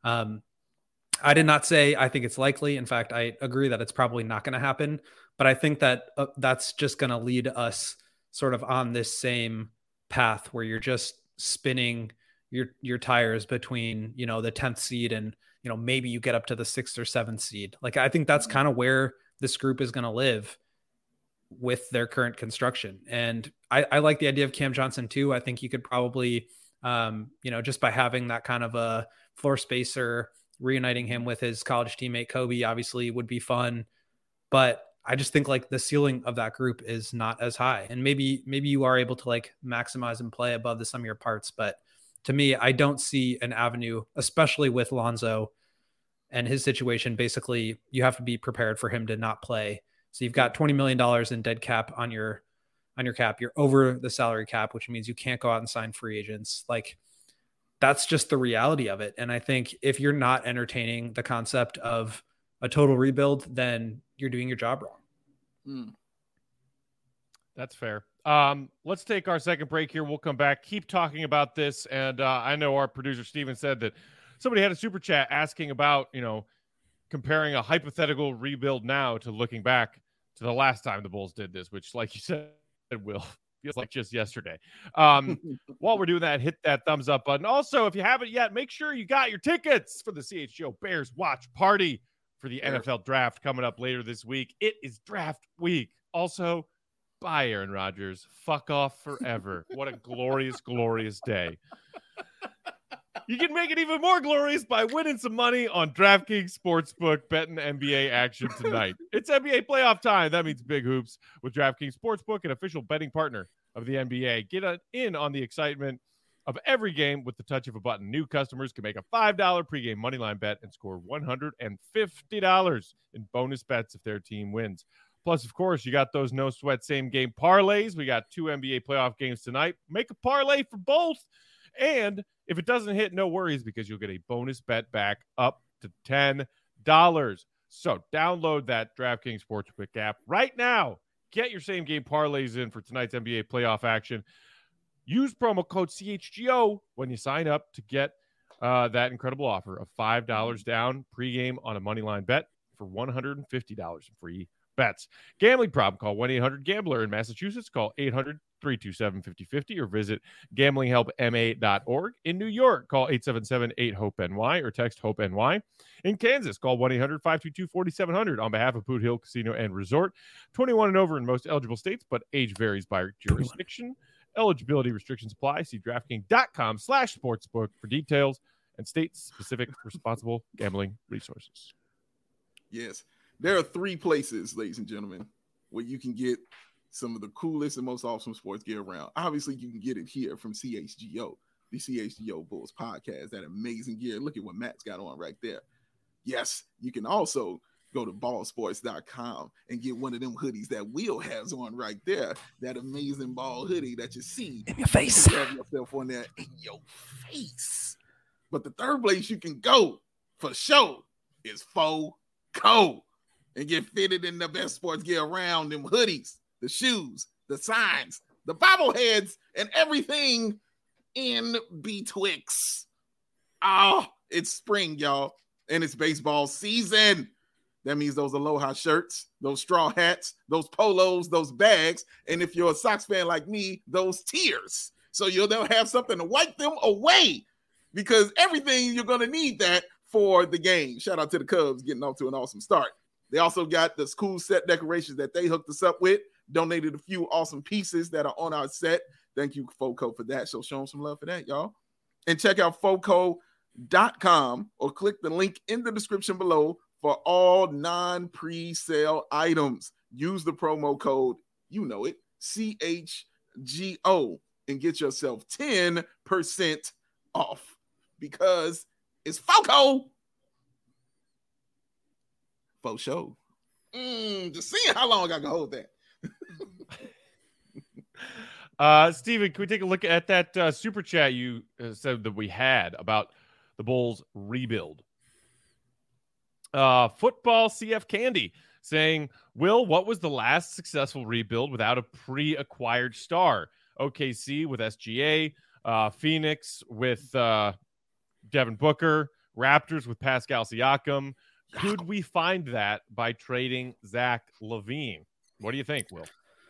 I did not say I think it's likely. In fact, I agree that it's probably not going to happen, but I think that that's just going to lead us sort of on this same path where you're just spinning your tires between, the 10th seed and, maybe you get up to the 6th or 7th seed. Like, I think that's kind of where this group is going to live with their current construction. And I like the idea of Cam Johnson too. I think you could probably, just by having that kind of a floor spacer, reuniting him with his college teammate Kobe obviously would be fun. But I just think like the ceiling of that group is not as high. And maybe you are able to like maximize and play above the sum of your parts. But to me, I don't see an avenue, especially with Lonzo and his situation. Basically, you have to be prepared for him to not play. So you've got $20 million in dead cap on your cap. You're over the salary cap, which means you can't go out and sign free agents. Like, that's just the reality of it. And I think if you're not entertaining the concept of a total rebuild, then you're doing your job wrong. That's fair. Let's take our second break here. We'll come back, keep talking about this. And I know our producer, Steven, said that somebody had a super chat asking about, comparing a hypothetical rebuild now to looking back to the last time the Bulls did this, which, like you said, Will, feels like just yesterday. While we're doing that, hit that thumbs up button. Also, if you haven't yet, make sure you got your tickets for the CHGO Bears Watch Party for the NFL Draft coming up later this week. It is draft week. Also, bye, Aaron Rodgers. Fuck off forever. What a glorious, glorious day. You can make it even more glorious by winning some money on DraftKings Sportsbook, betting NBA action tonight. It's NBA playoff time. That means big hoops with DraftKings Sportsbook, an official betting partner of the NBA. Get in on the excitement of every game with the touch of a button. New customers can make a $5 pregame moneyline bet and score $150 in bonus bets if their team wins. Plus, of course, you got those no-sweat same-game parlays. We got 2 NBA playoff games tonight. Make a parlay for both. And if it doesn't hit, no worries, because you'll get a bonus bet back up to $10. So download that DraftKings Sportsbook app right now. Get your same-game parlays in for tonight's NBA playoff action. Use promo code CHGO when you sign up to get that incredible offer of $5 down pregame on a moneyline bet for $150 in free bets. Gambling problem? Call 1-800-GAMBLER. In Massachusetts, call 800-327-5050 or visit gamblinghelpma.org. In New York, call 877-8-HOPE-NY or text HOPE-NY. In Kansas, call 1-800-522-4700 on behalf of Boot Hill Casino and Resort. 21 and over in most eligible states, but age varies by jurisdiction. Eligibility restrictions apply. See DraftKings.com/sportsbook for details and state-specific responsible gambling resources. Yes. There are 3 places, ladies and gentlemen, where you can get some of the coolest and most awesome sports gear around. Obviously, you can get it here from CHGO, the CHGO Bulls podcast, that amazing gear. Look at what Matt's got on right there. Yes, you can also go to ballsports.com and get one of them hoodies that Will has on right there. That amazing ball hoodie that you see in your face. You have yourself on there in your face. But the third place you can go for sure is FOCO and get fitted in the best sports gear around, them hoodies, the shoes, the signs, the bobbleheads, and everything in betwixt. Oh, it's spring, y'all, and it's baseball season. That means those Aloha shirts, those straw hats, those polos, those bags, and if you're a Sox fan like me, those tears. So they'll have something to wipe them away, because everything you're going to need that for the game. Shout out to the Cubs getting off to an awesome start. They also got the cool set decorations that they hooked us up with, donated a few awesome pieces that are on our set. Thank you, FOCO, for that. So show them some love for that, y'all. And check out FOCO.com or click the link in the description below for all non-pre-sale items. Use the promo code, you know it, CHGO, and get yourself 10% off, because it's FOCO. Faux show. Just seeing how long I can hold that. Steven, can we take a look at that super chat you said that we had about the Bulls rebuild? Football CF Candy saying, Will, what was the last successful rebuild without a pre-acquired star? OKC with SGA, Phoenix with Devin Booker, Raptors with Pascal Siakam. Could we find that by trading Zach LaVine? What do you think, Will?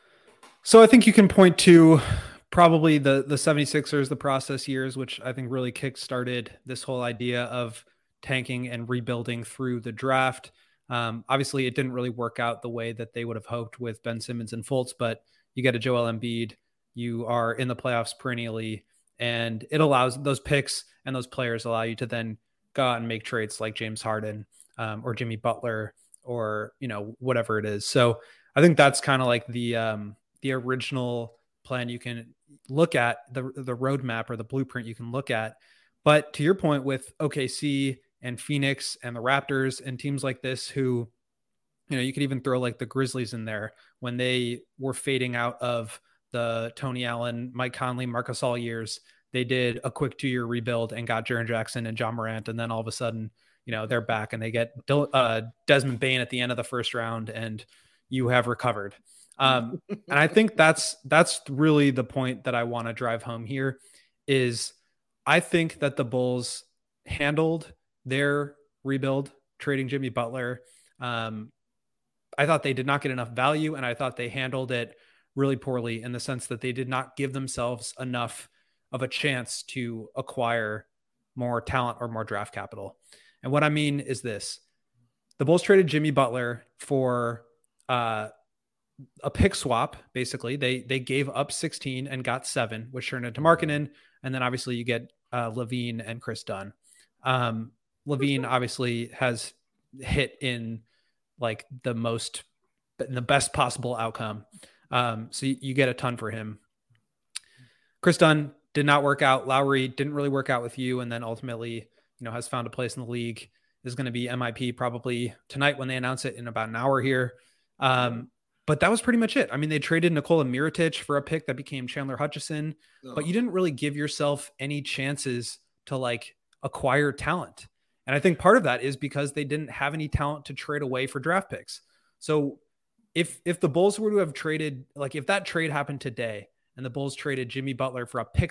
So I think you can point to probably the 76ers, the process years, which I think really kickstarted this whole idea of tanking and rebuilding through the draft. Obviously, it didn't really work out the way that they would have hoped with Ben Simmons and Fultz, but you get a Joel Embiid, you are in the playoffs perennially, and it allows those picks and those players allow you to then go out and make trades like James Harden or Jimmy Butler or, whatever it is. So I think that's kind of like the original plan you can look at, the roadmap or the blueprint you can look at. But to your point with OKC and Phoenix and the Raptors and teams like this who, you could even throw like the Grizzlies in there when they were fading out of the Tony Allen, Mike Conley, Marc Gasol years. They did a quick 2-year rebuild and got Jaren Jackson and John Morant. And then all of a sudden, they're back and they get Desmond Bane at the end of the first round and you have recovered. And I think that's really the point that I want to drive home here is I think that the Bulls handled their rebuild, trading Jimmy Butler. I thought they did not get enough value, and I thought they handled it really poorly in the sense that they did not give themselves enough of a chance to acquire more talent or more draft capital. And what I mean is this. The Bulls traded Jimmy Butler for a pick swap, basically. They gave up 16 and got 7, which turned into Markkanen. And then obviously you get LaVine and Chris Dunn. LaVine obviously has hit in like the best possible outcome. So you get a ton for him. Chris Dunn did not work out. Lowry didn't really work out with you. And then ultimately, has found a place in the league, is going to be MIP probably tonight when they announce it in about an hour here. But that was pretty much it. I mean, they traded Nikola Mirotic for a pick that became Chandler Hutchison, but you didn't really give yourself any chances to like acquire talent. And I think part of that is because they didn't have any talent to trade away for draft picks. So if the Bulls were to have traded, like if that trade happened today and the Bulls traded Jimmy Butler for a pick,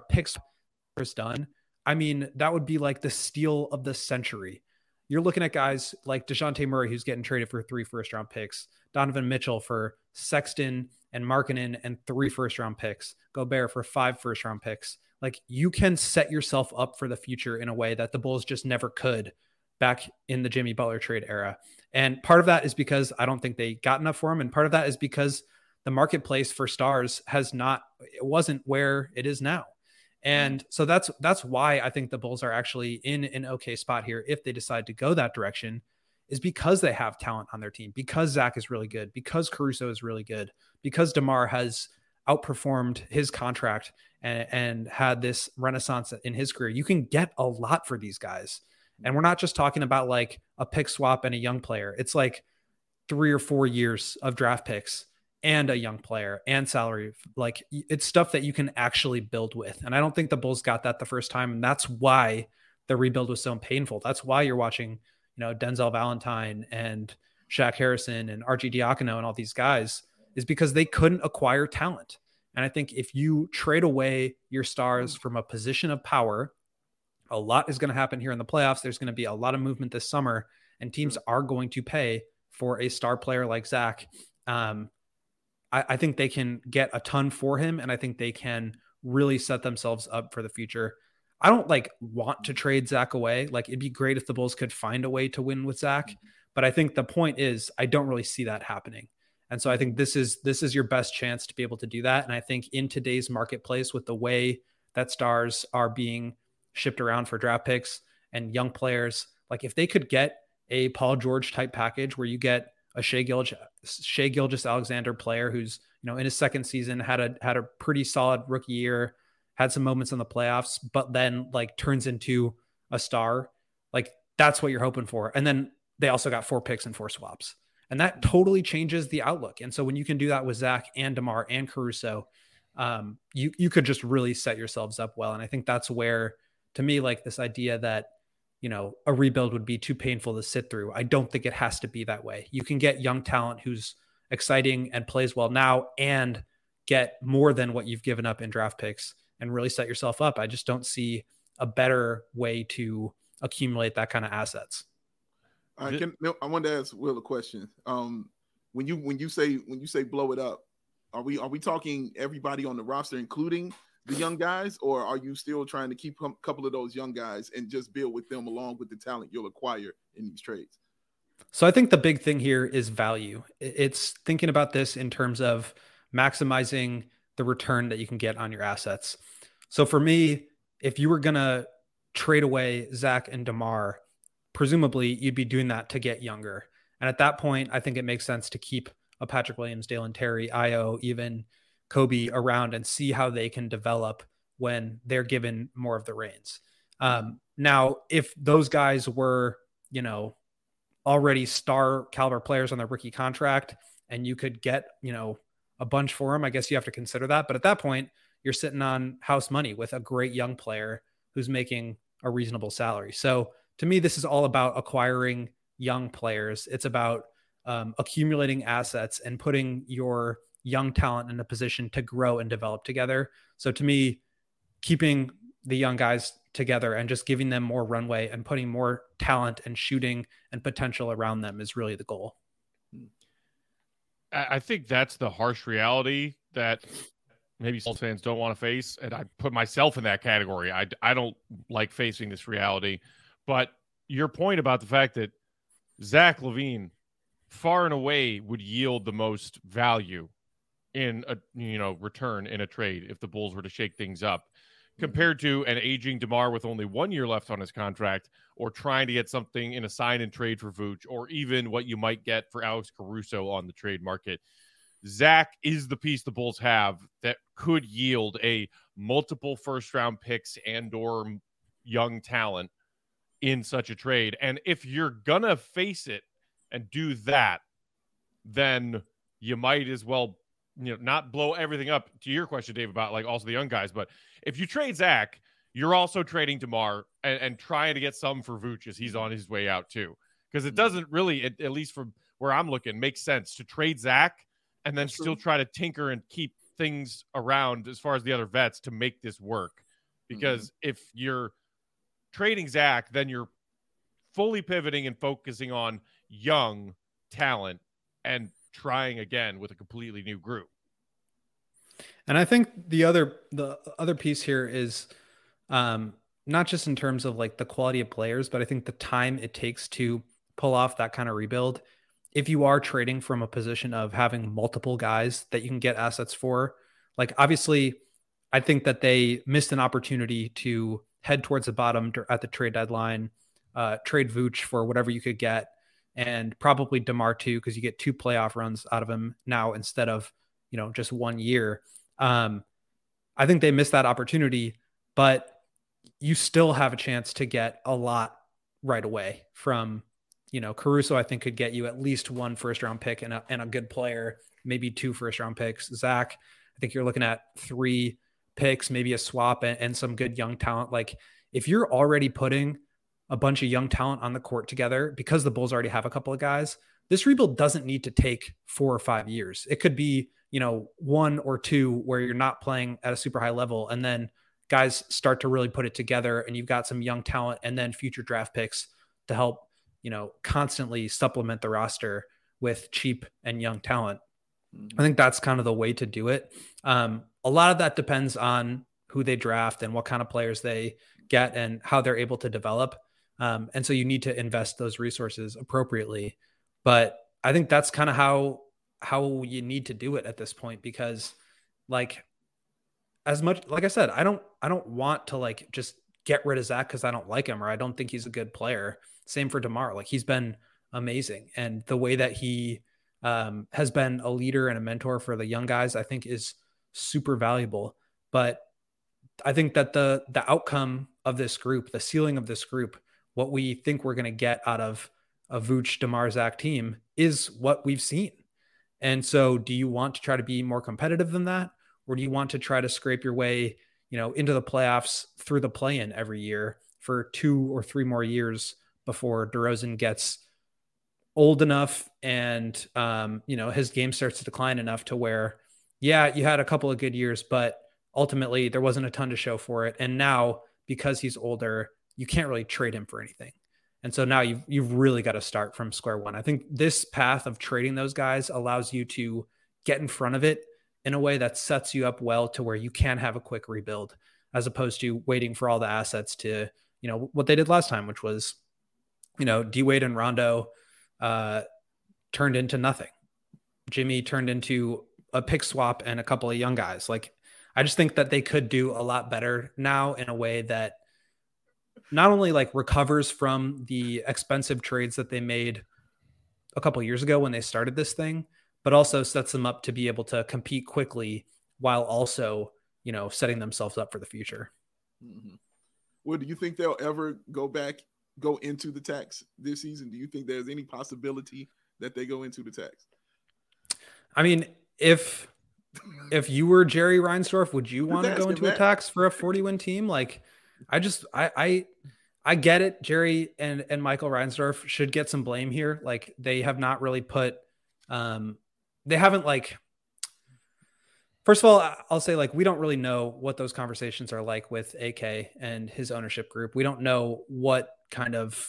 Chris Dunn, I mean, that would be like the steal of the century. You're looking at guys like DeJounte Murray, who's getting traded for 3 first-round picks, Donovan Mitchell for Sexton and Markkanen and 3 first-round picks, Gobert for 5 first-round picks. Like, you can set yourself up for the future in a way that the Bulls just never could back in the Jimmy Butler trade era. And part of that is because I don't think they got enough for him. And part of that is because the marketplace for stars it wasn't where it is now. And so that's why I think the Bulls are actually in an okay spot here if they decide to go that direction, is because they have talent on their team, because Zach is really good, because Caruso is really good, because DeMar has outperformed his contract and had this renaissance in his career. You can get a lot for these guys. And we're not just talking about like a pick swap and a young player. It's like 3 or 4 years of draft picks and a young player and salary. Like, it's stuff that you can actually build with. And I don't think the Bulls got that the first time. And that's why the rebuild was so painful. That's why you're watching, Denzel Valentine and Shaq Harrison and RG Diacono and all these guys, is because they couldn't acquire talent. And I think if you trade away your stars from a position of power, a lot is going to happen here in the playoffs. There's going to be a lot of movement this summer, and teams are going to pay for a star player like Zach. I think they can get a ton for him, and I think they can really set themselves up for the future. I don't like want to trade Zach away. Like it'd be great if the Bulls could find a way to win with Zach. But I think the point is I don't really see that happening. And so I think this is your best chance to be able to do that. And I think in today's marketplace with the way that stars are being shipped around for draft picks and young players, like if they could get a Paul George type package where you get a Shai Gilgeous-Alexander player who's, in his second season had a pretty solid rookie year, had some moments in the playoffs, but then like turns into a star. Like that's what you're hoping for. And then they also got 4 picks and 4 swaps. And that totally changes the outlook. And so when you can do that with Zach and DeMar and Caruso, you could just really set yourselves up well. And I think that's where, to me, like this idea that, a rebuild would be too painful to sit through. I don't think it has to be that way. You can get young talent who's exciting and plays well now and get more than what you've given up in draft picks and really set yourself up. I just don't see a better way to accumulate that kind of assets. I wanted to ask Will a question. When you say blow it up, are we talking everybody on the roster, including the young guys, or are you still trying to keep a couple of those young guys and just build with them along with the talent you'll acquire in these trades? So I think the big thing here is value. It's thinking about this in terms of maximizing the return that you can get on your assets. So for me, if you were going to trade away Zach and DeMar, presumably you'd be doing that to get younger. And at that point, I think it makes sense to keep a Patrick Williams, Dalen Terry, Io, even Kobe around and see how they can develop when they're given more of the reins. Now, if those guys were, already star caliber players on their rookie contract and you could get, a bunch for them, I guess you have to consider that. But at that point, you're sitting on house money with a great young player who's making a reasonable salary. So to me, this is all about acquiring young players. It's about accumulating assets and putting your young talent in a position to grow and develop together. So to me, keeping the young guys together and just giving them more runway and putting more talent and shooting and potential around them is really the goal. I think that's the harsh reality that maybe Bulls fans don't want to face. And I put myself in that category. I don't like facing this reality, but your point about the fact that Zach LaVine far and away would yield the most value in a return in a trade if the Bulls were to shake things up, compared to an aging DeMar with only 1 year left on his contract, or trying to get something in a sign and trade for Vooch, or even what you might get for Alex Caruso on the trade market. Zach is the piece the Bulls have that could yield a multiple first round picks and or young talent in such a trade. And if you're gonna face it and do that, then you might as well, not blow everything up. To your question, Dave, about like also the young guys, but if you trade Zach, you're also trading DeMar and trying to get some for Vooch as he's on his way out too. Because it doesn't really, at least from where I'm looking, make sense to trade Zach and then still try to tinker and keep things around as far as the other vets to make this work. Because if you're trading Zach, then you're fully pivoting and focusing on young talent and trying again with a completely new group. And I think the other piece here is not just in terms of like the quality of players, but I think the time it takes to pull off that kind of rebuild. If you are trading from a position of having multiple guys that you can get assets for, like obviously I think that they missed an opportunity to head towards the bottom at the trade deadline, trade Vooch for whatever you could get, and probably DeMar too, because you get 2 playoff runs out of him now instead of, just 1 year. I think they missed that opportunity, but you still have a chance to get a lot right away from, Caruso. I think could get you at least 1 first round pick and a good player, maybe 2 first round picks. Zach, I think you're looking at 3 picks, maybe a swap and some good young talent. Like if you're already putting a bunch of young talent on the court together, because the Bulls already have a couple of guys, this rebuild doesn't need to take 4 or 5 years. It could be, 1 or 2 where you're not playing at a super high level. And then guys start to really put it together and you've got some young talent and then future draft picks to help, constantly supplement the roster with cheap and young talent. I think that's kind of the way to do it. A lot of that depends on who they draft and what kind of players they get and how they're able to develop. And so you need to invest those resources appropriately. But I think that's kind of how you need to do it at this point, because like, as much, like I said, I don't want to like just get rid of Zach because I don't like him or I don't think he's a good player. Same for DeMar. Like, he's been amazing. And the way that he has been a leader and a mentor for the young guys, I think is super valuable. But I think that the outcome of this group, the ceiling of this group, what we think we're going to get out of a Vooch, DeMar, Zach team is what we've seen. And so do you want to try to be more competitive than that? Or do you want to try to scrape your way, into the playoffs through the play-in every year for 2 or 3 more years before DeRozan gets old enough and, his game starts to decline enough to where, yeah, you had a couple of good years, but ultimately there wasn't a ton to show for it. And now, because he's older, you can't really trade him for anything. And so now you've really got to start from square one. I think this path of trading those guys allows you to get in front of it in a way that sets you up well to where you can have a quick rebuild, as opposed to waiting for all the assets to, what they did last time, which was, D-Wade and Rondo turned into nothing. Jimmy turned into a pick swap and a couple of young guys. Like, I just think that they could do a lot better now in a way that not only like recovers from the expensive trades that they made a couple of years ago when they started this thing, but also sets them up to be able to compete quickly while also, setting themselves up for the future. Mm-hmm. Well, do you think they'll ever go into the tax this season? Do you think there's any possibility that they go into the tax? I mean, if you were Jerry Reinsdorf, would you want to go into a tax for a 40-win team? Like, I get it. Jerry and Michael Reinsdorf should get some blame here. Like, they have not really put, they haven't like, first of all, I'll say like, we don't really know what those conversations are like with AK and his ownership group. We don't know what kind of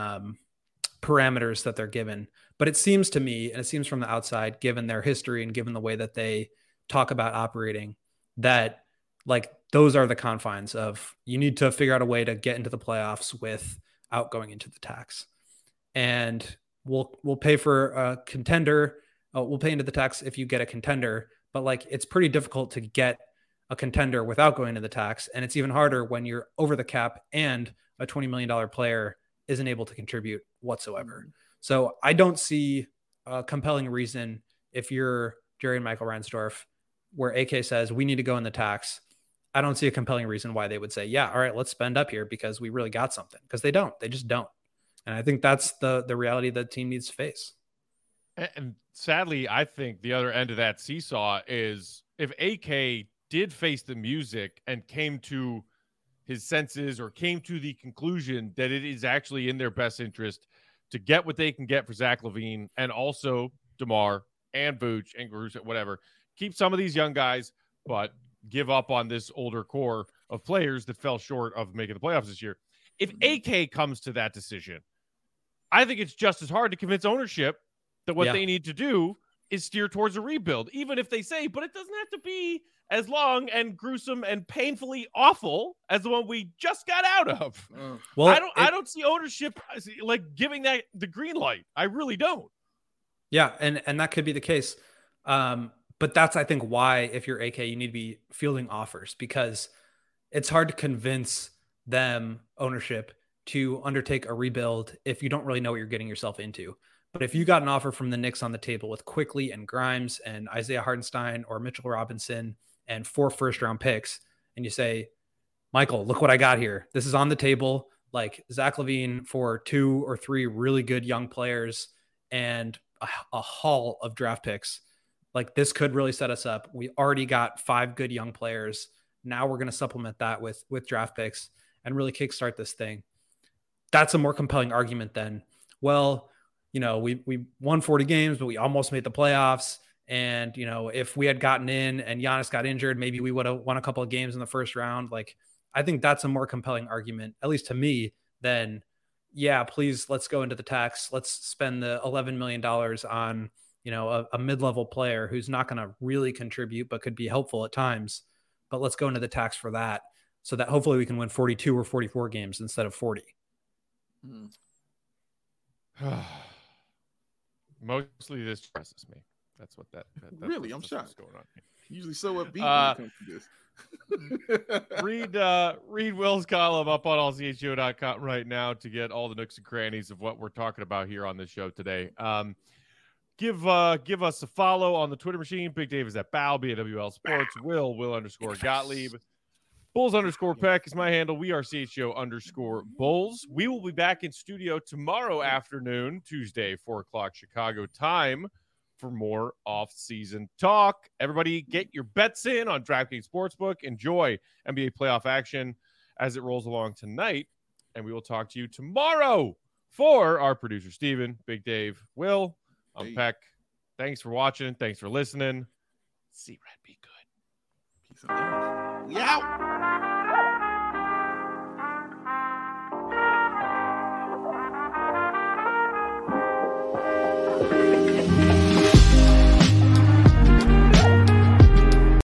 parameters that they're given, but it seems to me, and it seems from the outside, given their history and given the way that they talk about operating, that like those are the confines of, you need to figure out a way to get into the playoffs without going into the tax. And we'll pay for a contender. We'll pay into the tax if you get a contender, but like, it's pretty difficult to get a contender without going to the tax. And it's even harder when you're over the cap and a $20 million player isn't able to contribute whatsoever. So I don't see a compelling reason, if you're Jerry and Michael Reinsdorf, where AK says we need to go in the tax. I don't see a compelling reason why they would say, yeah, all right, let's spend up here because we really got something, because they just don't. And I think that's the reality that the team needs to face. And sadly, I think the other end of that seesaw is, if AK did face the music and came to his senses or came to the conclusion that it is actually in their best interest to get what they can get for Zach LaVine and also DeMar and Vooch and Caruso, whatever, keep some of these young guys, but give up on this older core of players that fell short of making the playoffs this year. If AK comes to that decision, I think it's just as hard to convince ownership that what they need to do is steer towards a rebuild, even if they say, but it doesn't have to be as long and gruesome and painfully awful as the one we just got out of. Well, I don't see ownership like giving that the green light. I really don't. Yeah, and that could be the case. But that's, I think, why, if you're AK, you need to be fielding offers, because it's hard to convince them, ownership, to undertake a rebuild if you don't really know what you're getting yourself into. But if you got an offer from the Knicks on the table with Quickley and Grimes and Isaiah Hartenstein or Mitchell Robinson and 4 first-round picks, and you say, Michael, look what I got here. This is on the table. Like, Zach LaVine for 2 or 3 really good young players and a haul of draft picks. Like, this could really set us up. We already got 5 good young players. Now we're going to supplement that with draft picks and really kickstart this thing. That's a more compelling argument than, well, we won 40 games, but we almost made the playoffs. And, if we had gotten in and Giannis got injured, maybe we would have won a couple of games in the first round. Like, I think that's a more compelling argument, at least to me, than, yeah, please, let's go into the tax. Let's spend the $11 million on, a mid-level player who's not going to really contribute, but could be helpful at times. but let's go into the tax for that so that hopefully we can win 42 or 44 games instead of 40. Mostly this stresses me. That's what that really, I'm shocked. Going on. Usually so upbeat when it comes to this. Read Will's column up on allchgo.com right now to get all the nooks and crannies of what we're talking about here on this show today. Give us a follow on the Twitter machine. Big Dave is at Bow, BAWL Sports. Will_Gottlieb. Bulls_Peck is my handle. We are CHGO_Bulls. We will be back in studio tomorrow afternoon, Tuesday, 4:00 Chicago time, for more off-season talk. Everybody get your bets in on DraftKings Sportsbook. Enjoy NBA playoff action as it rolls along tonight. And we will talk to you tomorrow. For our producer, Steven, Big Dave, Will, I'm Peck. Thanks for watching. Thanks for listening. See Red, be good. Peace out. We out.